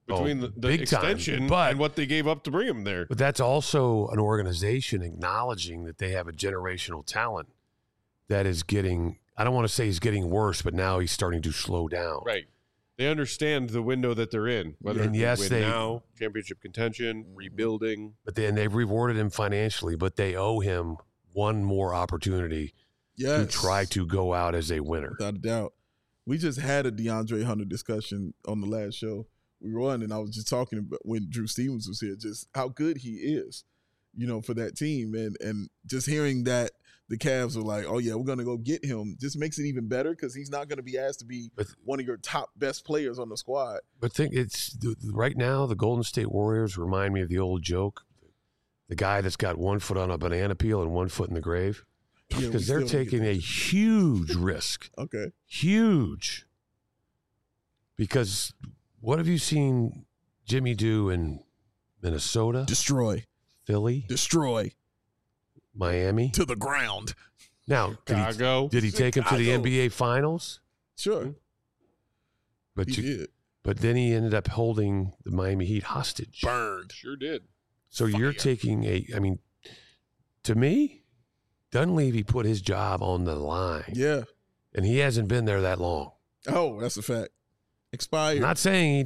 Speaker 1: between the
Speaker 3: big
Speaker 1: extension
Speaker 3: time,
Speaker 1: and what they gave up to bring him there.
Speaker 3: But that's also an organization acknowledging that they have a generational talent that is getting, I don't want to say he's getting worse, but now he's starting to slow down.
Speaker 1: Right. They understand the window that they're in, whether
Speaker 3: And
Speaker 1: it's
Speaker 3: yes,
Speaker 1: win now, championship contention, rebuilding.
Speaker 3: But then they've rewarded him financially, but they owe him one more opportunity to try to go out as a winner.
Speaker 2: Without a doubt. We just had a DeAndre Hunter discussion on the last show we were on, and I was just talking about when Drew Stevens was here, just how good he is, for that team. And just hearing that the Cavs are like, oh, yeah, we're going to go get him, just makes it even better because he's not going to be asked to be one of your top best players on the squad.
Speaker 3: But right now, the Golden State Warriors remind me of the old joke, the guy that's got 1 foot on a banana peel and 1 foot in the grave. Because they're taking a huge risk.
Speaker 2: Okay.
Speaker 3: Huge. Because what have you seen Jimmy do in Minnesota?
Speaker 2: Destroy.
Speaker 3: Philly?
Speaker 2: Destroy.
Speaker 3: Miami?
Speaker 2: To the ground.
Speaker 3: Now, did he take him to the NBA Finals?
Speaker 2: Sure.
Speaker 3: But
Speaker 2: he did.
Speaker 3: But then he ended up holding the Miami Heat hostage.
Speaker 2: Burned.
Speaker 1: Sure did.
Speaker 3: So you're taking to me, Dunleavy put his job on the line.
Speaker 2: Yeah.
Speaker 3: And he hasn't been there that long.
Speaker 2: Oh, that's a fact. Expired.
Speaker 3: I'm not saying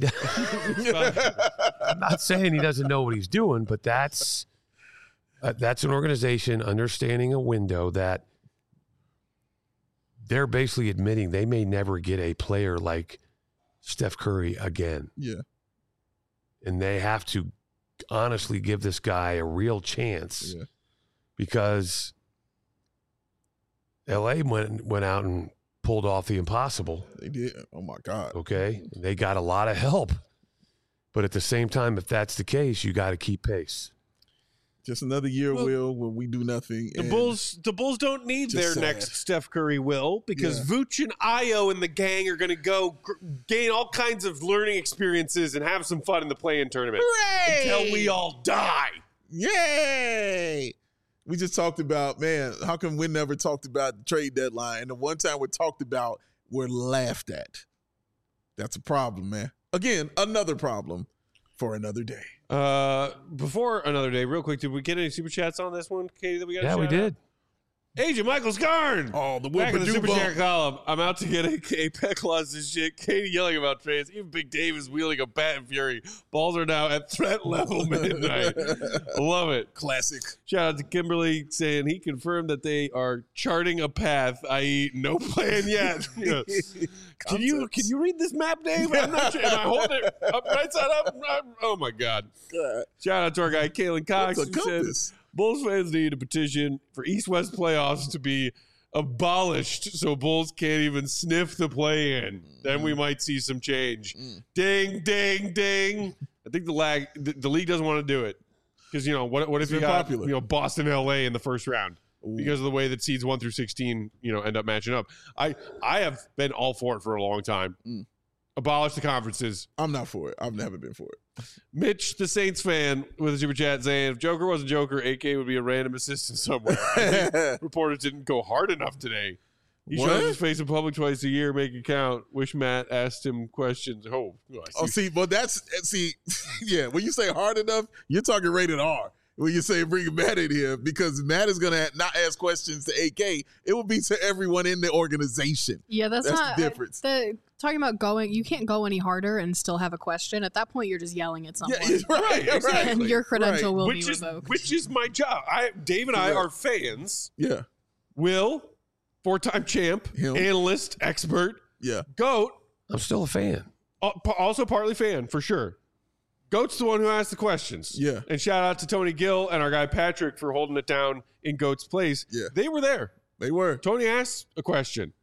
Speaker 3: he doesn't know what he's doing, but that's an organization understanding a window that they're basically admitting they may never get a player like Steph Curry again.
Speaker 2: Yeah.
Speaker 3: And they have to honestly give this guy a real chance because LA went out and pulled off the impossible.
Speaker 2: They did. Oh, my God.
Speaker 3: Okay. They got a lot of help. But at the same time, if that's the case, you got to keep pace.
Speaker 2: Just another year, Will, where we do nothing.
Speaker 1: The Bulls don't need their next Steph Curry, Will, because Vooch and Ayo and the gang are going to go gain all kinds of learning experiences and have some fun in the play-in tournament.
Speaker 2: Hooray!
Speaker 1: Until we all die.
Speaker 2: Yay! We just talked about, man, how come we never talked about the trade deadline? And the one time we talked about, we're laughed at. That's a problem, man. Again, another problem for another day.
Speaker 1: Before another day, real quick, did we get any super chats on this one, Katie, that we got?
Speaker 3: Yeah, we did.
Speaker 1: Agent Michael Scarn.
Speaker 2: Oh, the
Speaker 1: back in the super
Speaker 2: bump.
Speaker 1: chat column. I'm out to get a pet clause and shit. Katie yelling about trades. Even Big Dave is wielding a bat in fury. Balls are now at threat level midnight. Love it.
Speaker 2: Classic.
Speaker 1: Shout out to Kimberly saying he confirmed that they are charting a path, i.e., no plan yet. Can you read this map, Dave? I'm not sure. Am I holding it up right side up? Oh my God. Shout out to our guy Kalen Cox.
Speaker 2: What's a compass?
Speaker 1: Bulls fans need a petition for East-West playoffs to be abolished so Bulls can't even sniff the play-in. Then we might see some change. Ding, ding, ding. I think the league doesn't want to do it because, what if you got Boston, LA in the first round? Because of the way that seeds 1 through 16, end up matching up. I have been all for it for a long time. Abolish the conferences.
Speaker 2: I'm not for it. I've never been for it.
Speaker 1: Mitch, the Saints fan, with a super chat saying, if Joker wasn't Joker, AK would be a random assistant somewhere. I think reporters didn't go hard enough today. He shows his face in public twice a year, make it count. Wish Matt asked him questions. When you say hard enough, you're talking rated R. When you say bring Matt in here, because Matt is going to not ask questions to AK. It will be to everyone in the organization.
Speaker 4: Yeah, that's not
Speaker 2: the difference.
Speaker 4: Talking about you can't go any harder and still have a question. At that point, you're just yelling at someone.
Speaker 2: Yeah, right, exactly.
Speaker 4: And your credential will be revoked.
Speaker 1: Which is my job. Dave and I are fans.
Speaker 2: Yeah.
Speaker 1: Will, 4-time champ, analyst, expert.
Speaker 2: Yeah.
Speaker 1: GOAT.
Speaker 3: I'm still a fan.
Speaker 1: Also partly fan, for sure. GOAT's the one who asked the questions.
Speaker 2: Yeah.
Speaker 1: And shout out to Tony Gill and our guy Patrick for holding it down in GOAT's place.
Speaker 2: Yeah.
Speaker 1: They were there.
Speaker 2: They were.
Speaker 1: Tony asked a question.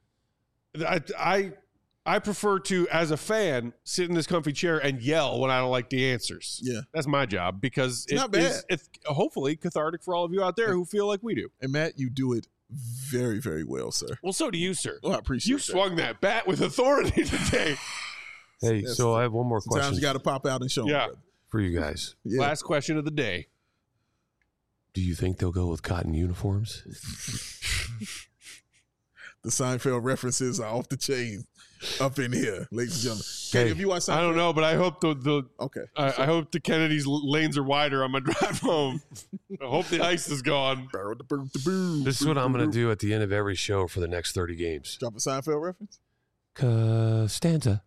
Speaker 1: I prefer to, as a fan, sit in this comfy chair and yell when I don't like the answers.
Speaker 2: Yeah.
Speaker 1: That's my job because it's hopefully cathartic for all of you out there who feel like we do.
Speaker 2: And Matt, you do it very, very well, sir.
Speaker 1: Well, so do you, sir.
Speaker 2: Well, I appreciate
Speaker 1: you swung that bat with authority today.
Speaker 3: Hey, so I have one more question.
Speaker 2: Sometimes you got to pop out and show them.
Speaker 3: For you guys.
Speaker 2: Yeah.
Speaker 1: Last question of the day.
Speaker 3: Do you think they'll go with cotton uniforms?
Speaker 2: The Seinfeld references are off the chain up in here, ladies and gentlemen. Katie, have you watched Seinfeld?
Speaker 1: I don't know, but I hope
Speaker 2: Okay.
Speaker 1: I hope the Kennedy's lanes are wider on my drive home. I hope the ice is gone.
Speaker 3: This is what I'm going to do at the end of every show for the next 30 games.
Speaker 2: Drop a Seinfeld reference?
Speaker 3: Costanza.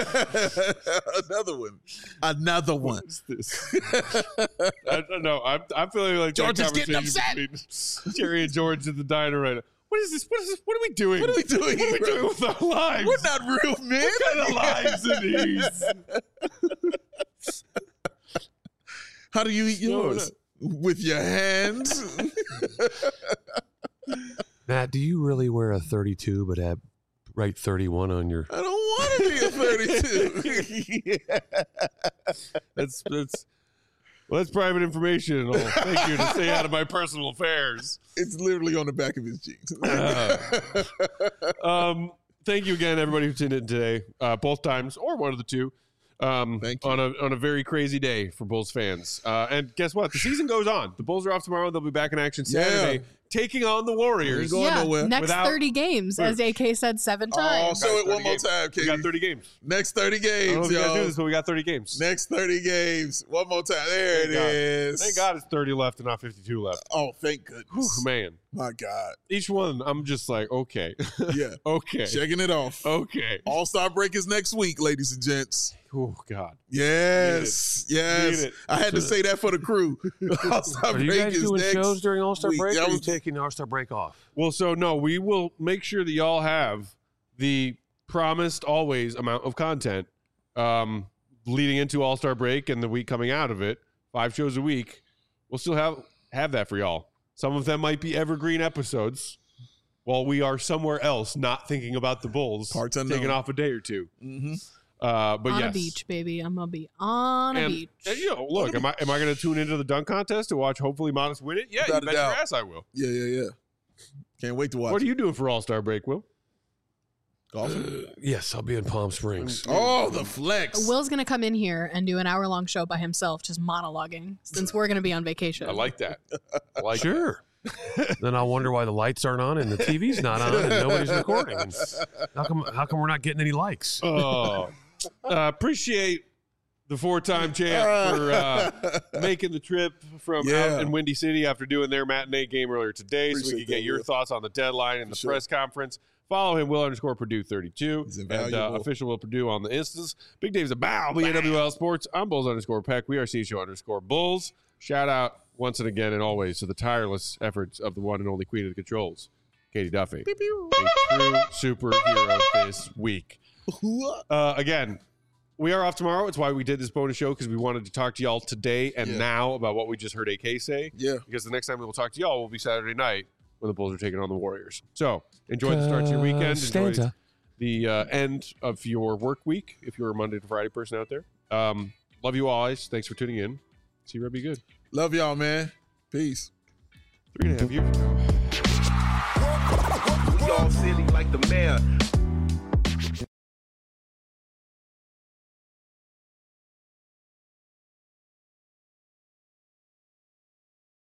Speaker 2: Another one.
Speaker 1: What's this? I don't know. I'm feeling like
Speaker 2: George is getting upset.
Speaker 1: Jerry and George at the diner right now. What is this? What is this? What are we doing?
Speaker 2: What are we doing?
Speaker 1: What are we doing with our lives?
Speaker 2: We're not real men.
Speaker 1: What kind of lives are these?
Speaker 2: How do you eat yours? With your hands?
Speaker 3: Matt, do you really wear a 32 but write 31 on your...
Speaker 2: I don't want to be a 32.
Speaker 1: That's private information. And all. Thank you to stay out of my personal affairs.
Speaker 2: It's literally on the back of his jeans.
Speaker 1: Thank you again, everybody who tuned in today, both times or one of the two.
Speaker 2: Thank you.
Speaker 1: On a very crazy day for Bulls fans. And guess what? The season goes on. The Bulls are off tomorrow. They'll be back in action Saturday, taking on the Warriors.
Speaker 2: Ain't going nowhere.
Speaker 4: Next 30 games, as AK said 7 times.
Speaker 2: Say it one more time, Katie.
Speaker 1: We got 30 games.
Speaker 2: Next 30
Speaker 1: I don't know
Speaker 2: games,
Speaker 1: if you guys do
Speaker 2: y'all.
Speaker 1: this, but we got 30 games.
Speaker 2: Next 30 games. One more time. There it is.
Speaker 1: Thank God it's 30 left and not 52 left.
Speaker 2: Oh, thank goodness.
Speaker 1: Whew, man.
Speaker 2: My God.
Speaker 1: Each one, I'm just like, okay.
Speaker 2: Yeah.
Speaker 1: Okay.
Speaker 2: Checking it off.
Speaker 1: Okay.
Speaker 2: All-Star break is next week, ladies and gents.
Speaker 1: Oh, God.
Speaker 2: Yes.
Speaker 1: Need
Speaker 2: Yes.
Speaker 1: it.
Speaker 2: I had to say that for the crew. All-Star
Speaker 3: Are you
Speaker 2: break
Speaker 3: guys
Speaker 2: is
Speaker 3: doing
Speaker 2: next
Speaker 3: shows during All-Star
Speaker 2: week.
Speaker 3: break,
Speaker 2: That
Speaker 3: or are you
Speaker 2: was-
Speaker 3: taking the All-Star break off?
Speaker 1: Well, so no, we will make sure that y'all have the promised always amount of content leading into All-Star break and the week coming out of it. 5 shows a week. We'll still have that for y'all. Some of them might be evergreen episodes while we are somewhere else not thinking about the Bulls,
Speaker 2: Parts unknown.
Speaker 1: taking off a day or two.
Speaker 2: Mm-hmm.
Speaker 1: But
Speaker 4: On
Speaker 1: yes.
Speaker 4: a beach, baby. I'm going to be on a beach.
Speaker 1: And, you know, look, am I going to tune into the dunk contest to watch hopefully Modest win it? Yeah,
Speaker 2: Without
Speaker 1: you
Speaker 2: a
Speaker 1: bet your
Speaker 2: doubt.
Speaker 1: ass I will.
Speaker 2: Yeah. Can't wait to watch.
Speaker 1: What are you doing for All-Star break, Will?
Speaker 2: Golfing?
Speaker 3: Yes, I'll be in Palm Springs.
Speaker 2: Oh, the flex.
Speaker 4: Will's going to come in here and do an hour-long show by himself, just monologuing, since we're going to be on vacation.
Speaker 1: I like that. I like
Speaker 3: Sure. Then I'll wonder why the lights aren't on and the TV's not on and nobody's recording. And how come we're not getting any likes?
Speaker 1: Oh, appreciate the 4-time champ for making the trip from out in Windy City after doing their matinee game earlier today, so we
Speaker 2: Appreciate
Speaker 1: could get
Speaker 2: that,
Speaker 1: your
Speaker 2: Will.
Speaker 1: thoughts on the deadline and the
Speaker 2: sure.
Speaker 1: press conference. Follow him, Will_Purdue32,
Speaker 2: He's
Speaker 1: and
Speaker 2: invaluable.
Speaker 1: official Will Purdue on the Instas. Big Dave's a bow, BNWL Sports. I'm Bulls_Peck. We are CHO_Bulls. Shout out once and again and always to the tireless efforts of the one and only queen of the controls, Katie Duffy. A true superhero this week. Again, we are off tomorrow. It's why we did this bonus show, because we wanted to talk to y'all today and now about what we just heard AK say.
Speaker 2: Yeah.
Speaker 1: Because the next time we will talk to y'all will be Saturday night when the Bulls are taking on the Warriors. So enjoy the start to your weekend. Enjoy
Speaker 3: Costanza.
Speaker 1: the end of your work week if you're a Monday to Friday person out there. Love you always. Thanks for tuning in. See you, be good.
Speaker 2: Love y'all, man. Peace.
Speaker 1: 3.5 years ago.
Speaker 10: We all silly like the mayor.